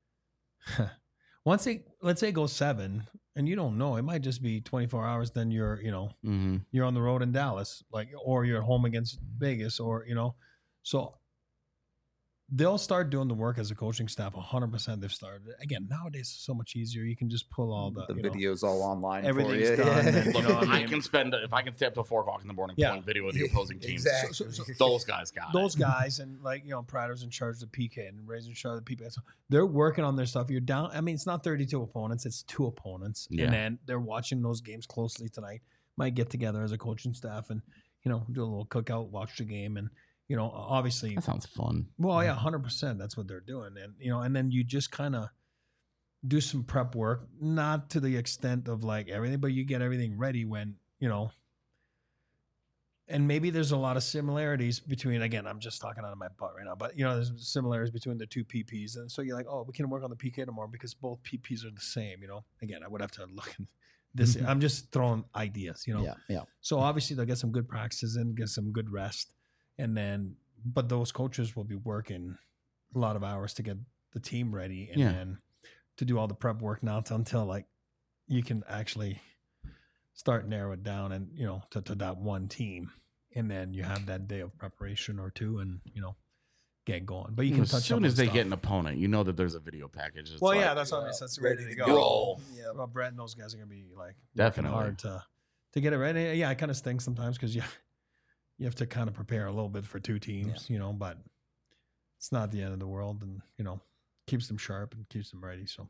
once they, let's say it goes seven and you don't know, it might just be twenty-four hours. Then you're, you know, Mm-hmm. you're on the road in Dallas, like, or you're at home against Vegas, or, you know, so they'll start doing the work as a coaching staff. one hundred percent they've started. Again, nowadays it's so much easier. You can just pull all the, The you know, videos all online. everything's for you. done, and, Look, you know what I I mean? can spend if I can stay up till four o'clock in the morning Yeah. playing video of the opposing team. Exactly. So- so- so- Those guys got those it. guys, and like, you know, Prater's in charge of the P K and Ray's in charge of the P P. So they're working on their stuff. You're down. I mean, it's not thirty-two opponents; it's two opponents, Yeah. and then they're watching those games closely tonight. Might get together as a coaching staff and, you know, do a little cookout, watch the game, and, you know, obviously, That sounds fun. well, yeah, one hundred percent. That's what they're doing, and you know, and then you just kind of do some prep work, not to the extent of like everything, but you get everything ready when, you know. And maybe there's a lot of similarities between, again, I'm just talking out of my butt right now, but, you know, there's similarities between the two P Ps. And so you're like, oh, we can work on the P K tomorrow because both P Ps are the same, you know. Again, I would have to look at this. I'm just throwing ideas, you know. Yeah, yeah. So obviously they'll get some good practices in, get some good rest. And then, but those coaches will be working a lot of hours to get the team ready and Yeah. then to do all the prep work now to, until like you can actually start narrow it down and, you know, to, to that one team. And then you have that day of preparation or two and, you know, get going. But you can as touch soon on as they stuff. get an opponent, you know that there's a video package. It's Well, like, yeah, that's what I mean. That's ready, ready to to go. go. Yeah, well, Brett and those guys are gonna be like working Definitely. hard to to get it ready. Yeah, it kind of stinks sometimes because you you have to kind of prepare a little bit for two teams, you know. But it's not the end of the world, and you know, keeps them sharp and keeps them ready. So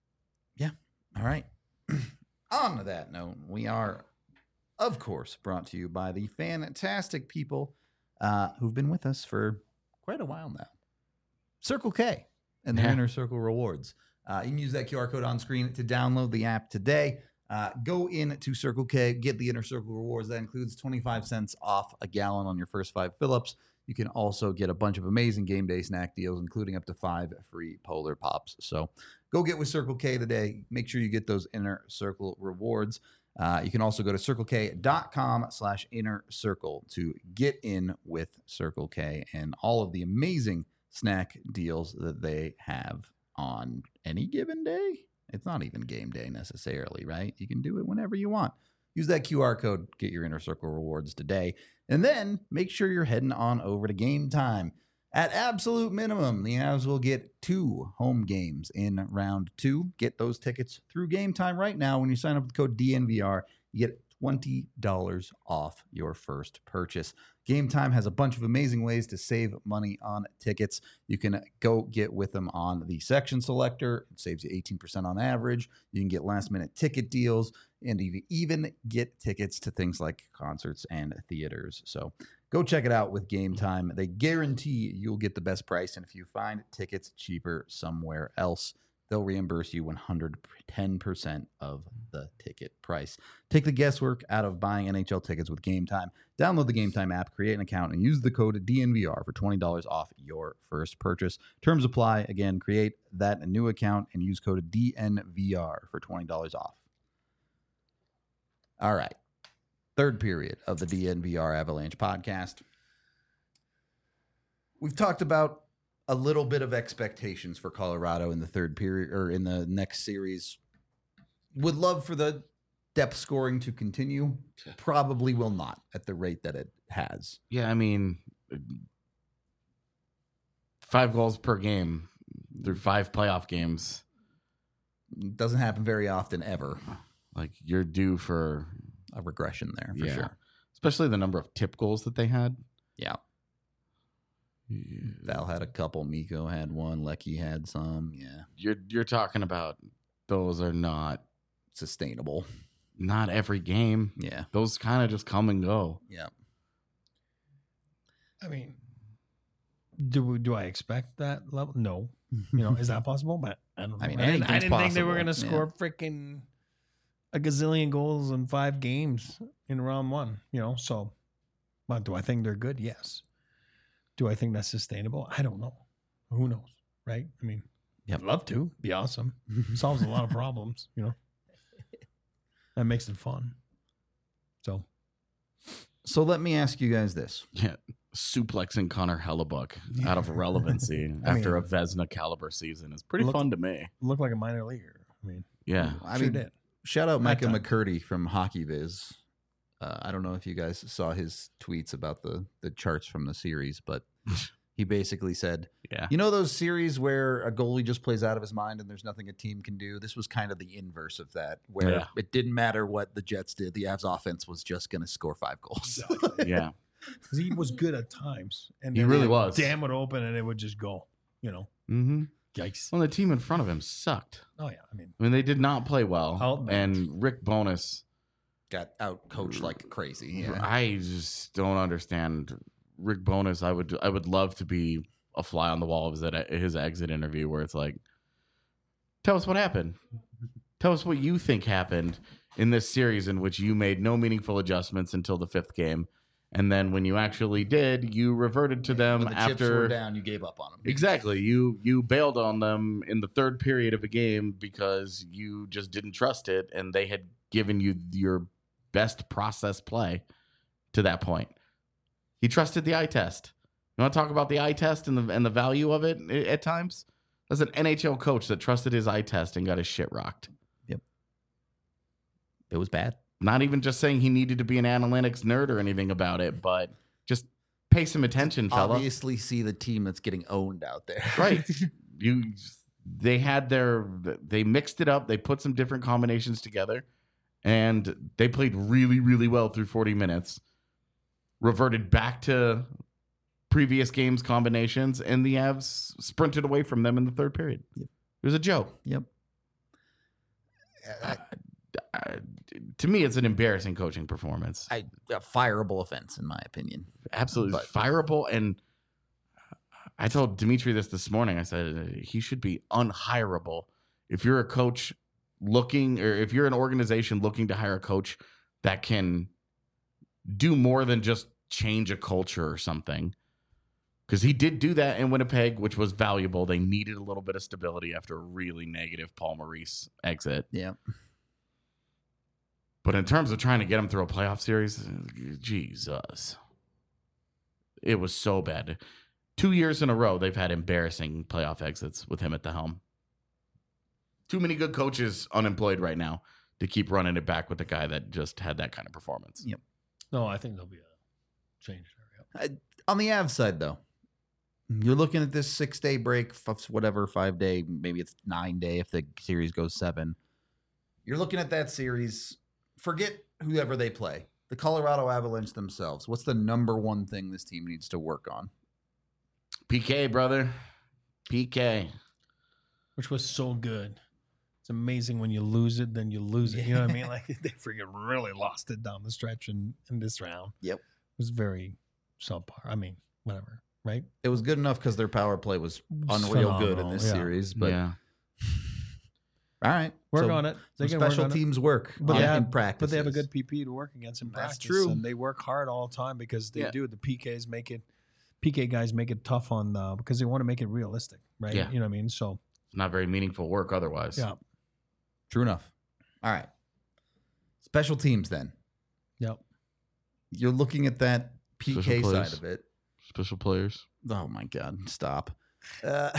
All right. On to that note, we are, of course, brought to you by the fantastic people uh, who've been with us for quite a while now. Circle K and their Yeah. Inner Circle rewards. Uh, you can use that Q R code on screen to download the app today. Uh, go into Circle K, get the Inner Circle rewards. That includes twenty-five cents off a gallon on your first five fill-ups. You can also get a bunch of amazing game day snack deals, including up to five free Polar Pops. So go get with Circle K today. Make sure you get those Inner Circle rewards. Uh, you can also go to circlek.com slash inner circle to get in with Circle K and all of the amazing snack deals that they have on any given day. It's not even game day necessarily, right? You can do it whenever you want. Use that Q R code, get your Inner Circle rewards today. And then make sure you're heading on over to Game Time. At absolute minimum, the Avs will get two home games in round two. Get those tickets through Game Time right now. When you sign up with the code D N V R, you get twenty dollars off your first purchase. Game Time has a bunch of amazing ways to save money on tickets. You can go get with them on the section selector. It saves you eighteen percent on average. You can get last minute ticket deals, and you can even get tickets to things like concerts and theaters. So go check it out with Game Time. They guarantee you'll get the best price, and if you find tickets cheaper somewhere else, they'll reimburse you one hundred ten percent of the ticket price. Take the guesswork out of buying N H L tickets with Game Time. Download the Game Time app, create an account, and use the code D N V R for twenty dollars off your first purchase. Terms apply. Again, create that new account and use code D N V R for twenty dollars off. All right. Third period of the D N V R Avalanche podcast. We've talked about a little bit of expectations for Colorado in the third period or in the next series. Would love for the depth scoring to continue. Probably will not at the rate that it has. Yeah, I mean, five goals per game through five playoff games. Doesn't happen very often ever. like you're due for A regression there for yeah, sure. especially the number of tip goals that they had. Yeah. Val had a couple. Miko had one. Lecky had some. Yeah. You're you're talking about those are not Sustainable. not every game. Yeah. Those kind of just come and go. Yeah. I mean, do do I expect that level? No. You know, is that possible? But I don't know. I mean, I didn't, I anything's didn't think they were possible. going to score freaking a gazillion goals in five games in round one. You know, so. But do I think they're good? Yes. Do I think that's sustainable? I don't know. Who knows? Right? I mean, Yep. I'd love to. Be awesome. Solves a lot of problems. You know, that makes it fun. So. So let me ask you guys this. Yeah, suplexing Connor Hellebuck out of relevancy I after mean, a Vezina caliber season is pretty look- fun to me. Look like a minor leaguer. I mean, Yeah, I sure mean, did. shout out That Micah time. McCurdy from Hockey Viz. Uh, I don't know if you guys saw his tweets about the the charts from the series, but he basically said, yeah. you know those series where a goalie just plays out of his mind and there's nothing a team can do? This was kind of the inverse of that, where Yeah. it didn't matter what the Jets did. The Avs offense was just going to score five goals. Yeah. Because he was good at times. And He then really they would was. Damn it open and it would just go, you know. Mm-hmm. Yikes. Well, the team in front of him sucked. Oh, yeah. I mean, I mean, they did not play well. Outmatched. And Rick Bowness, Got out coached like crazy. Yeah. I just don't understand. Rick Bowness, I would I would love to be a fly on the wall of his, his exit interview where it's like, tell us what happened. Tell us what you think happened in this series in which you made no meaningful adjustments until the fifth game. And then when you actually did, you reverted to them when the after chips were down, you gave up on them. Exactly. You you bailed on them in the third period of a game because you just didn't trust it, and they had given you your best process play to that point. He trusted the eye test. You want to talk about the eye test and the and the value of it at times? That's an N H L coach that trusted his eye test and got his shit rocked. Yep. It was bad. Not even just saying he needed to be an analytics nerd or anything about it, but just pay some attention, fella. Obviously, see the team that's getting owned out there. Right. You they had their they mixed it up, they put some different combinations together, and they played really, really well through forty minutes. Reverted back to previous games combinations, and the Avs sprinted away from them in the third period. Yep. It was a joke. Yep. Uh, uh, to me, it's an embarrassing coaching performance. I, a fireable offense, in my opinion. Absolutely But- fireable. And I told Dimitri this this morning. I said uh, he should be unhireable. If you're a coach looking, or if you're an organization looking to hire a coach that can do more than just change a culture or something. Because he did do that in Winnipeg, which was valuable. They needed a little bit of stability after a really negative Paul Maurice exit. Yeah. But in terms of trying to get him through a playoff series, Jesus. It was so bad. Two years in a row, they've had embarrassing playoff exits with him at the helm. Too many good coaches unemployed right now to keep running it back with a guy that just had that kind of performance. Yep. no, I think there'll be a change there. Yep. On the Avs side, though, you're looking at this six-day break, f- whatever, five-day, maybe it's nine-day if the series goes seven. You're looking at that series. Forget whoever they play. The Colorado Avalanche themselves. What's the number one thing this team needs to work on? P K, brother. P K. Which was so good. It's amazing when you lose it, then you lose it. You know what I mean? Like they freaking really lost it down the stretch in, in this round. Yep. It was very subpar. I mean, whatever, right? It was good enough because their power play was It's unreal good in phenomenal, this yeah. series. But yeah. all right. Work So on it. They some can work special on it. teams work But on- they have- in practice. But they have a good P P to work against in That's practice. true. And they work hard all the time because they Yeah. do. The P Ks make it, P K guys make it tough on, uh, because they want to make it realistic, right? Yeah. You know what I mean? So, It's not very meaningful work otherwise. yeah. True enough. All right. Special teams then. Yep. You're looking at that P K Special side plays. of it. Special players. Oh my God! Stop. Uh,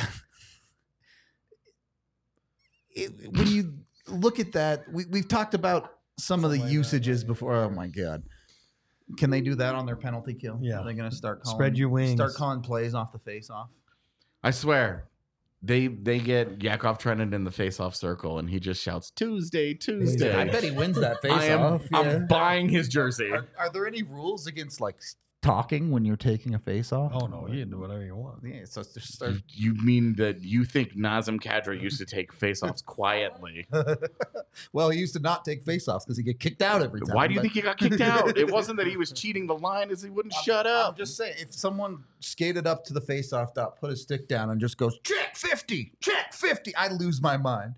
it, when you look at that, we, we've talked about some of the Something like that. usages before. Oh my God! Can they do that on their penalty kill? Yeah. Are they going to start calling, Spread your wings. Start calling plays off the face off. I swear, they they get Yakov Trenin in the face-off circle, and he just shouts Tuesday, Tuesday. I bet he wins that face I am, off. I'm yeah. buying his jersey. Are, are there any rules against like talking when you're taking a face off? Oh no, you can do whatever you want. Yeah, so it's just start. You mean that you think Nazem Kadri used to take face-offs quietly? Well, he used to not take face offs because he get kicked out every time. Why do you but- think he got kicked out? It wasn't that he was cheating the line, as he wouldn't shut I'm up. just saying, if someone skated up to the face-off dot, put his stick down, and just goes check fifty, check fifty, I lose my mind.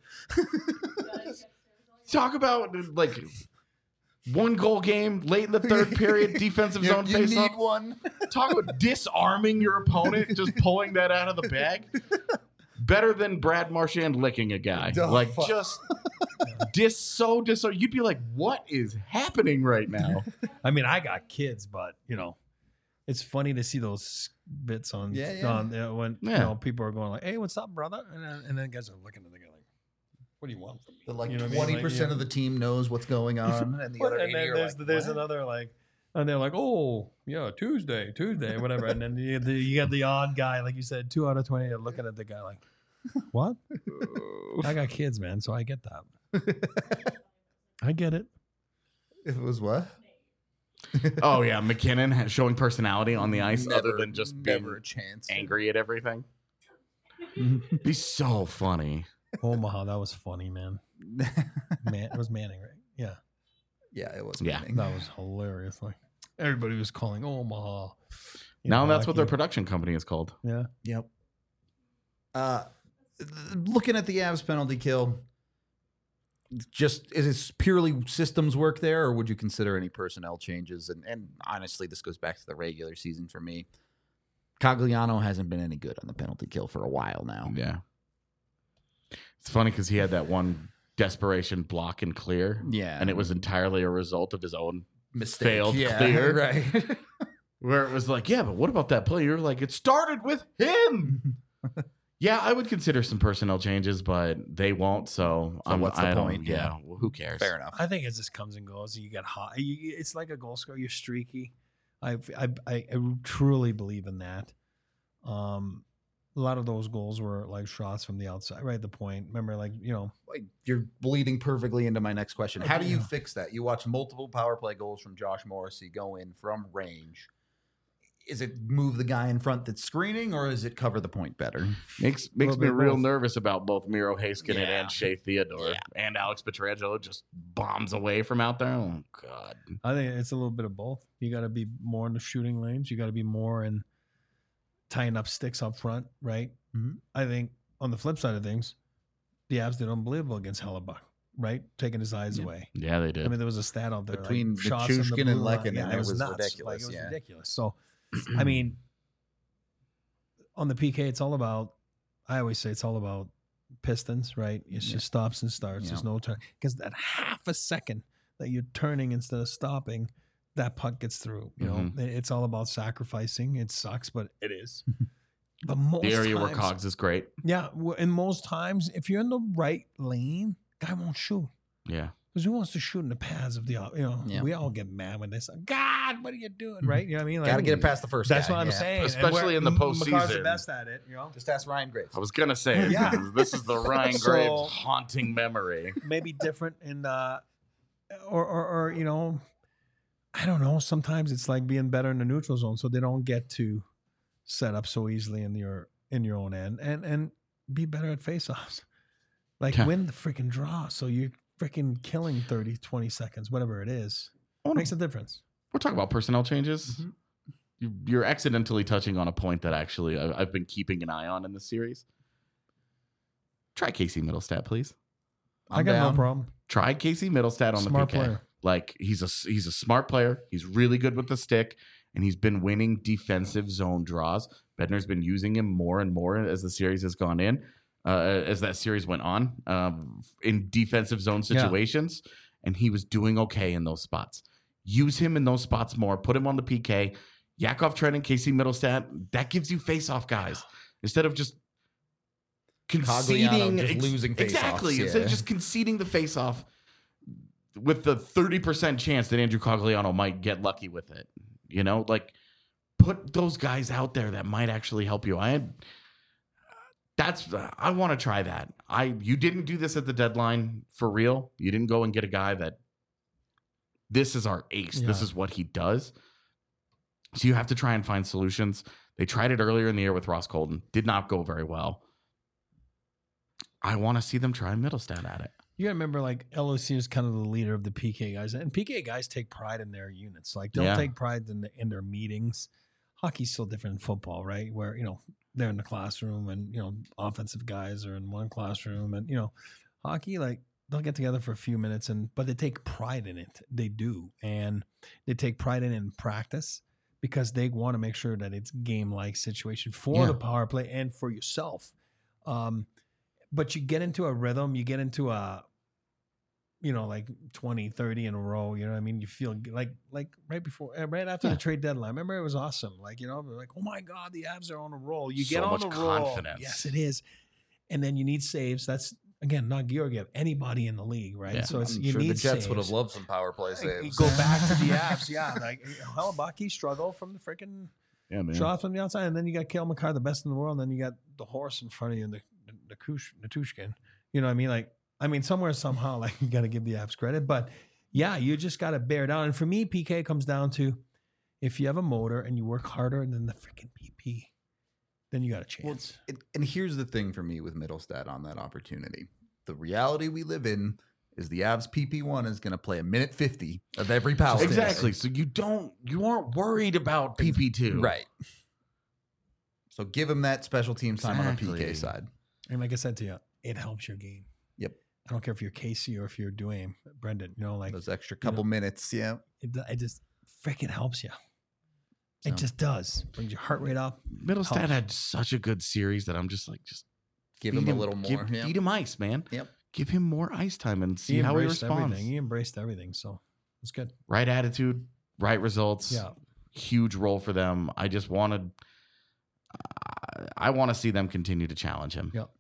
Talk about like one goal game late in the third period, defensive You, zone you face need off. one. Talk about disarming your opponent, just pulling that out of the bag. Better than Brad Marchand licking a guy. Oh, like fuck. just dis so dis. You'd be like, what is happening right now? I mean, I got kids, but you know, it's funny to see those bits on, Yeah, yeah. on uh, when Yeah. you know people are going like, "Hey, what's up, brother?" And then, and then guys are looking at the guy like, "What do you want from me?" But like You know what I mean? twenty Like, percent yeah. of the team knows what's going on, and the Well, other and eighty then are there's like, there's "What?" another like, and they're like, "Oh, yeah, Tuesday, Tuesday, whatever." And then you, the, you got the odd guy, like you said, two out of twenty are looking at the guy like, "What?" I got kids, man, so I get that. I get it. It was what? Oh yeah, McKinnon has- showing personality on the ice other Never- than just being never a chance. angry at everything. Be so funny. Omaha, that was funny, man. Man, it was Manning, right? Yeah, Yeah, it was. Yeah. Manning. that was hilarious. Like everybody was calling Omaha. You Now know, that's what their hockey. production company is called. Yeah. Yep. Uh, looking at the Avs penalty kill, just is it purely systems work there, or would you consider any personnel changes? And and honestly, this goes back to the regular season for me. Cogliano hasn't been any good on the penalty kill for a while now. Yeah. It's funny because he had that one desperation block and clear, Yeah, and it was entirely a result of his own mistake. failed yeah, clear. right? where it was like, yeah, but what about that play? You're like, it started with him. Yeah, I would consider some personnel changes, but they won't. So, So um, what's the I don't- point? Yeah, Yeah. well, who cares? Fair enough. I think it just comes and goes. You get hot. You, it's like a goal scorer. You're streaky. I, I I I truly believe in that. Um, a lot of those goals were like shots from the outside, right at the point. Remember, like you know, Like, you're bleeding perfectly into my next question. How do you Yeah. fix that? You watch multiple power play goals from Josh Morrissey go in from range. Is it move the guy in front that's screening, or is it cover the point better? Makes makes Little me bit real both. nervous about both Miro Heiskanen Yeah. and Shea Theodore. Yeah. And Alex Pietrangelo just bombs away from out there. Oh, God. I think it's a little bit of both. You got to be more in the shooting lanes. You got to be more in tying up sticks up front, right? Mhm. I think on the flip side of things, the Avs did unbelievable against Hellebuck, right? Taking his eyes Yeah. away. Yeah, they did. I mean, there was a stat out there Between like, shots in the Nichushkin blue and line. Lehkonen, Yeah, it was nuts. ridiculous, Like, it was yeah. ridiculous. So, I mean, on the P K, it's all about. I always say it's all about pistons, right? It's Yeah. just stops and starts. Yeah. There's no turn because that half a second that you're turning instead of stopping, that puck gets through. You know, Mhm. it's all about sacrificing. It sucks, but it is. But most the area times, where Cogs is great. yeah, w- and most times, if you're in the right lane, guy won't shoot. Yeah. Because who wants to shoot in the pads of the, you know, Yeah. we all get mad when they say, God, what are you doing? Right? You know what I mean? Like, Got to get it past the first. That's guy, what I'm yeah. saying. And Especially we're- in the M- Makar's postseason. the best at it, you know? Just ask Ryan Graves. I was going to say, Yeah. this is the Ryan So- Graves haunting memory. Maybe different in, uh, or, or, or, you know, I don't know. Sometimes it's like being better in the neutral zone so they don't get to set up so easily in your, in your own end and, and be better at faceoffs. Like Yeah. win the freaking draw. So you're freaking killing thirty, twenty seconds, whatever it is. I wanna- Makes a difference. We're talking about personnel changes. Mhm. You- You're accidentally touching on a point that actually I- I've been keeping an eye on in this series. Try Casey Middlestat, please. i I'm got down. no problem. Try Casey Middlestat on Smart the P K. player. Like he's a he's a smart player. He's really good with the stick, and he's been winning defensive zone draws. Bednar's been using him more and more as the series has gone in, uh, as that series went on, um, in defensive zone Yeah. situations, and he was doing okay in those spots. Use him in those spots more. Put him on the P K. Yakov Trenin, Casey Middlestat. That gives you face-off guys instead of just conceding, Cogliano just ex- losing face-offs, exactly. Instead yeah. of just conceding the face-off with the thirty percent chance that Andrew Cogliano might get lucky with it. You know, like put those guys out there that might actually help you. I had That's uh, I want to try that. I you didn't do this at the deadline for real. You didn't go and get a guy that this is our ace. Yeah. This is what he does. So you have to try and find solutions. They tried it earlier in the year with Ross Colton. Did not go very well. I want to see them try Middlestat at it. You gotta remember, like L O C is kind of the leader of the P K guys, and P K guys take pride in their units. Like they'll Yeah. take pride in, the, in their meetings. Hockey's still different than football, right? Where you know they're in the classroom, and you know offensive guys are in one classroom, and you know hockey, like they'll get together for a few minutes, and but they take pride in it. They do, and they take pride in it in practice because they want to make sure that it's game-like situation for Yeah. the power play and for yourself. Um, but you get into a rhythm, you get into a, you know, like twenty, thirty in a row, you know what I mean? You feel like, like right before, uh, right after Yeah. the trade deadline. Remember, it was awesome. Like, you know, like, oh my God, the Avs are on a roll. You get So on much the roll. confidence. Yes, it is. And then you need saves. That's, again, not Georgiev, anybody in the league, right? Yeah. So it's, I'm you sure need the Jets saves. would have loved some power play Like, you saves. go back to the Avs, yeah. Like, hell, Bucky struggled from the freaking Yeah, man. shot from the outside, and then you got Cale Makar, the best in the world, and then you got the horse in front of you, the the, the, Kush, the Tushkin. You know what I mean? Like, I mean, somewhere somehow, like you got to give the Avs credit, but yeah, you just got to bear down. And for me, P K comes down to if you have a motor and you work harder than the freaking P P, then you got a chance. Well, it, and here's the thing for me with Middlestat on that opportunity. The reality we live in is the Avs P P one is going to play a minute fifty of every power play. Exactly. So you don't you aren't worried about P P two. Right. So give him that special team time on the P K Exactly. side. And like I said to you, it helps your game. Yep. I don't care if you're Casey or if you're Duane, Brendan. You know, like Those extra couple minutes. Yeah. it, it just freaking helps you. So- It just does. Brings your heart rate up. Middlestat Helps. had such a good series that I'm just like just Give feed him a little give- more. yeah. Feed him ice, man. Yep. Give him more ice time and see how he embraced responds. everything. He embraced everything. So it's good. Right attitude, right results. Yeah. Huge role for them. I just wanted. I, I want to see them continue to challenge him. Yep.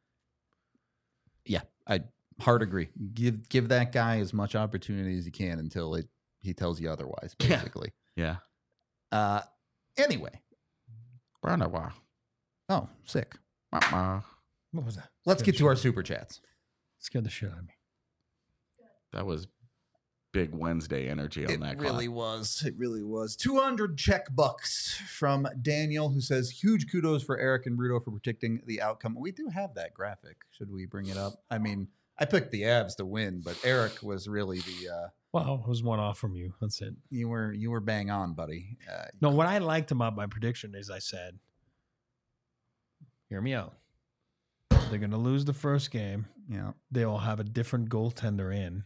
Yeah. I hard agree. Give give that guy as much opportunity as you can until it he tells you otherwise, Yeah. basically. Yeah. Uh anyway. Branawa. Oh, sick. Wah-wah. What was that? Let's Scared get to the our shit- super chats. Scared the shit out of me. That was big Wednesday energy on It that. really clock. was. It really was. two hundred check bucks from Daniel, who says, huge kudos for Eric and Rudo for predicting the outcome. We do have that graphic. Should we bring it up? I mean, I picked the Avs to win, but Eric was really the uh, Well, it was one off from you. That's it. you were you were bang on, buddy. Uh, No, what I liked about my prediction is I said, hear me out. They're going to lose the first game. yeah. They will have a different goaltender in.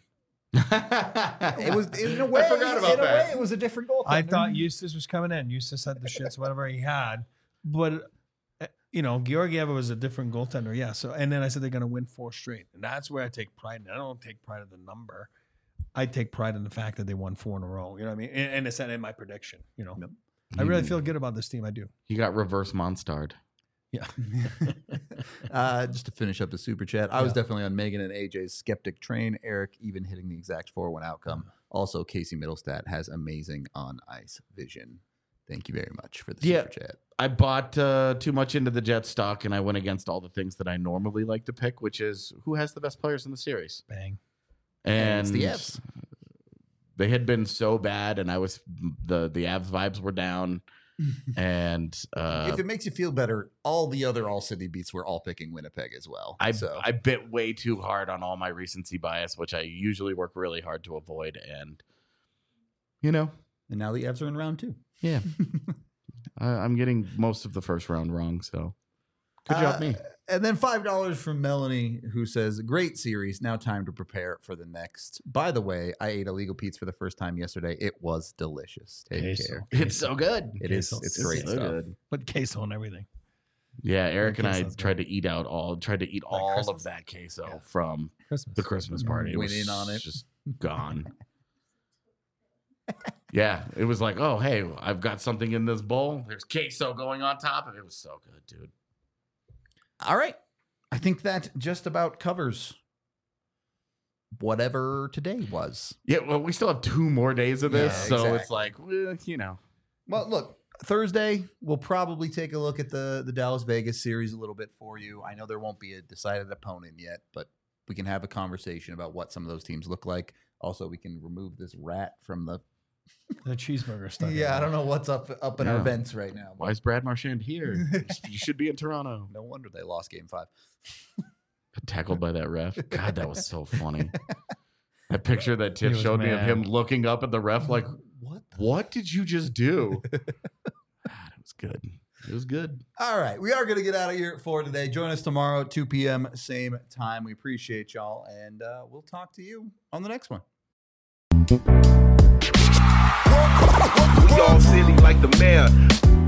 It was in a way. I forgot about in a that. way, it was a different goal. I thought Eustace was coming in. Eustace had the shits, whatever he had. But, uh, you know, Georgiev was a different goaltender. Yeah. So, and then I said they're going to win four straight. And that's where I take pride in. I don't take pride in the number. I take pride in the fact that they won four in a row. You know what I mean? And, and it's in my prediction. You know, Yep. I really feel good about this team. I do. He got reverse Monstarred. Yeah. uh, just to finish up the super chat, I was Yeah. definitely on Megan and A J's skeptic train. Eric even hitting the exact four one outcome. Also, Casey Middlestat has amazing on ice vision. Thank you very much for the Yeah. super chat. I bought uh, too much into the Jets stock, and I went against all the things that I normally like to pick, which is who has the best players in the series. Bang. And And it's the Avs. they had been so bad, and I was the the Avs vibes were down, and uh, If it makes you feel better, all the other All City beats were all picking Winnipeg as well. I so I bit way too hard on all my recency bias, which I usually work really hard to avoid, and you know, and now the Avs are in round two. yeah, I, I'm getting most of the first round wrong. So good job, Uh, me. And then five dollars from Melanie, who says, great series. Now time to prepare for the next. By the way, I ate illegal Pete's for the first time yesterday. It was delicious. Take Queso. care. It's so good. It is. Queso. It's It's great so stuff. good. Put queso on everything. Yeah, Eric and Okay, I sounds tried to eat out all, tried to eat Like all Christmas. of that queso Yeah. from Christmas. the Christmas party. It Went was in on it. just gone. Yeah, it was like, oh, hey, I've got something in this bowl. There's queso going on top of it. It was so good, dude. All right. I think that just about covers whatever today was. Yeah, well, we still have two more days of this, Yeah, so exactly. it's like, well, you know, Well, look, Thursday, we'll probably take a look at the, the Dallas Vegas series a little bit for you. I know there won't be a decided opponent yet, but we can have a conversation about what some of those teams look like. Also, we can remove this rat from the The cheeseburger stuff. yeah. I don't know what's up up in Yeah. our vents right now. Why is Brad Marchand here? You should be in Toronto. No wonder they lost Game Five. Tackled by that ref. God, that was so funny. That picture that Tiff He was showed me of mad. him looking up at the ref like, What? The- what did you just do? God, it was good. It was good. All right, we are going to get out of here for today. Join us tomorrow at two p.m. same time. We appreciate y'all, and uh, we'll talk to you on the next one. We all silly like the mayor.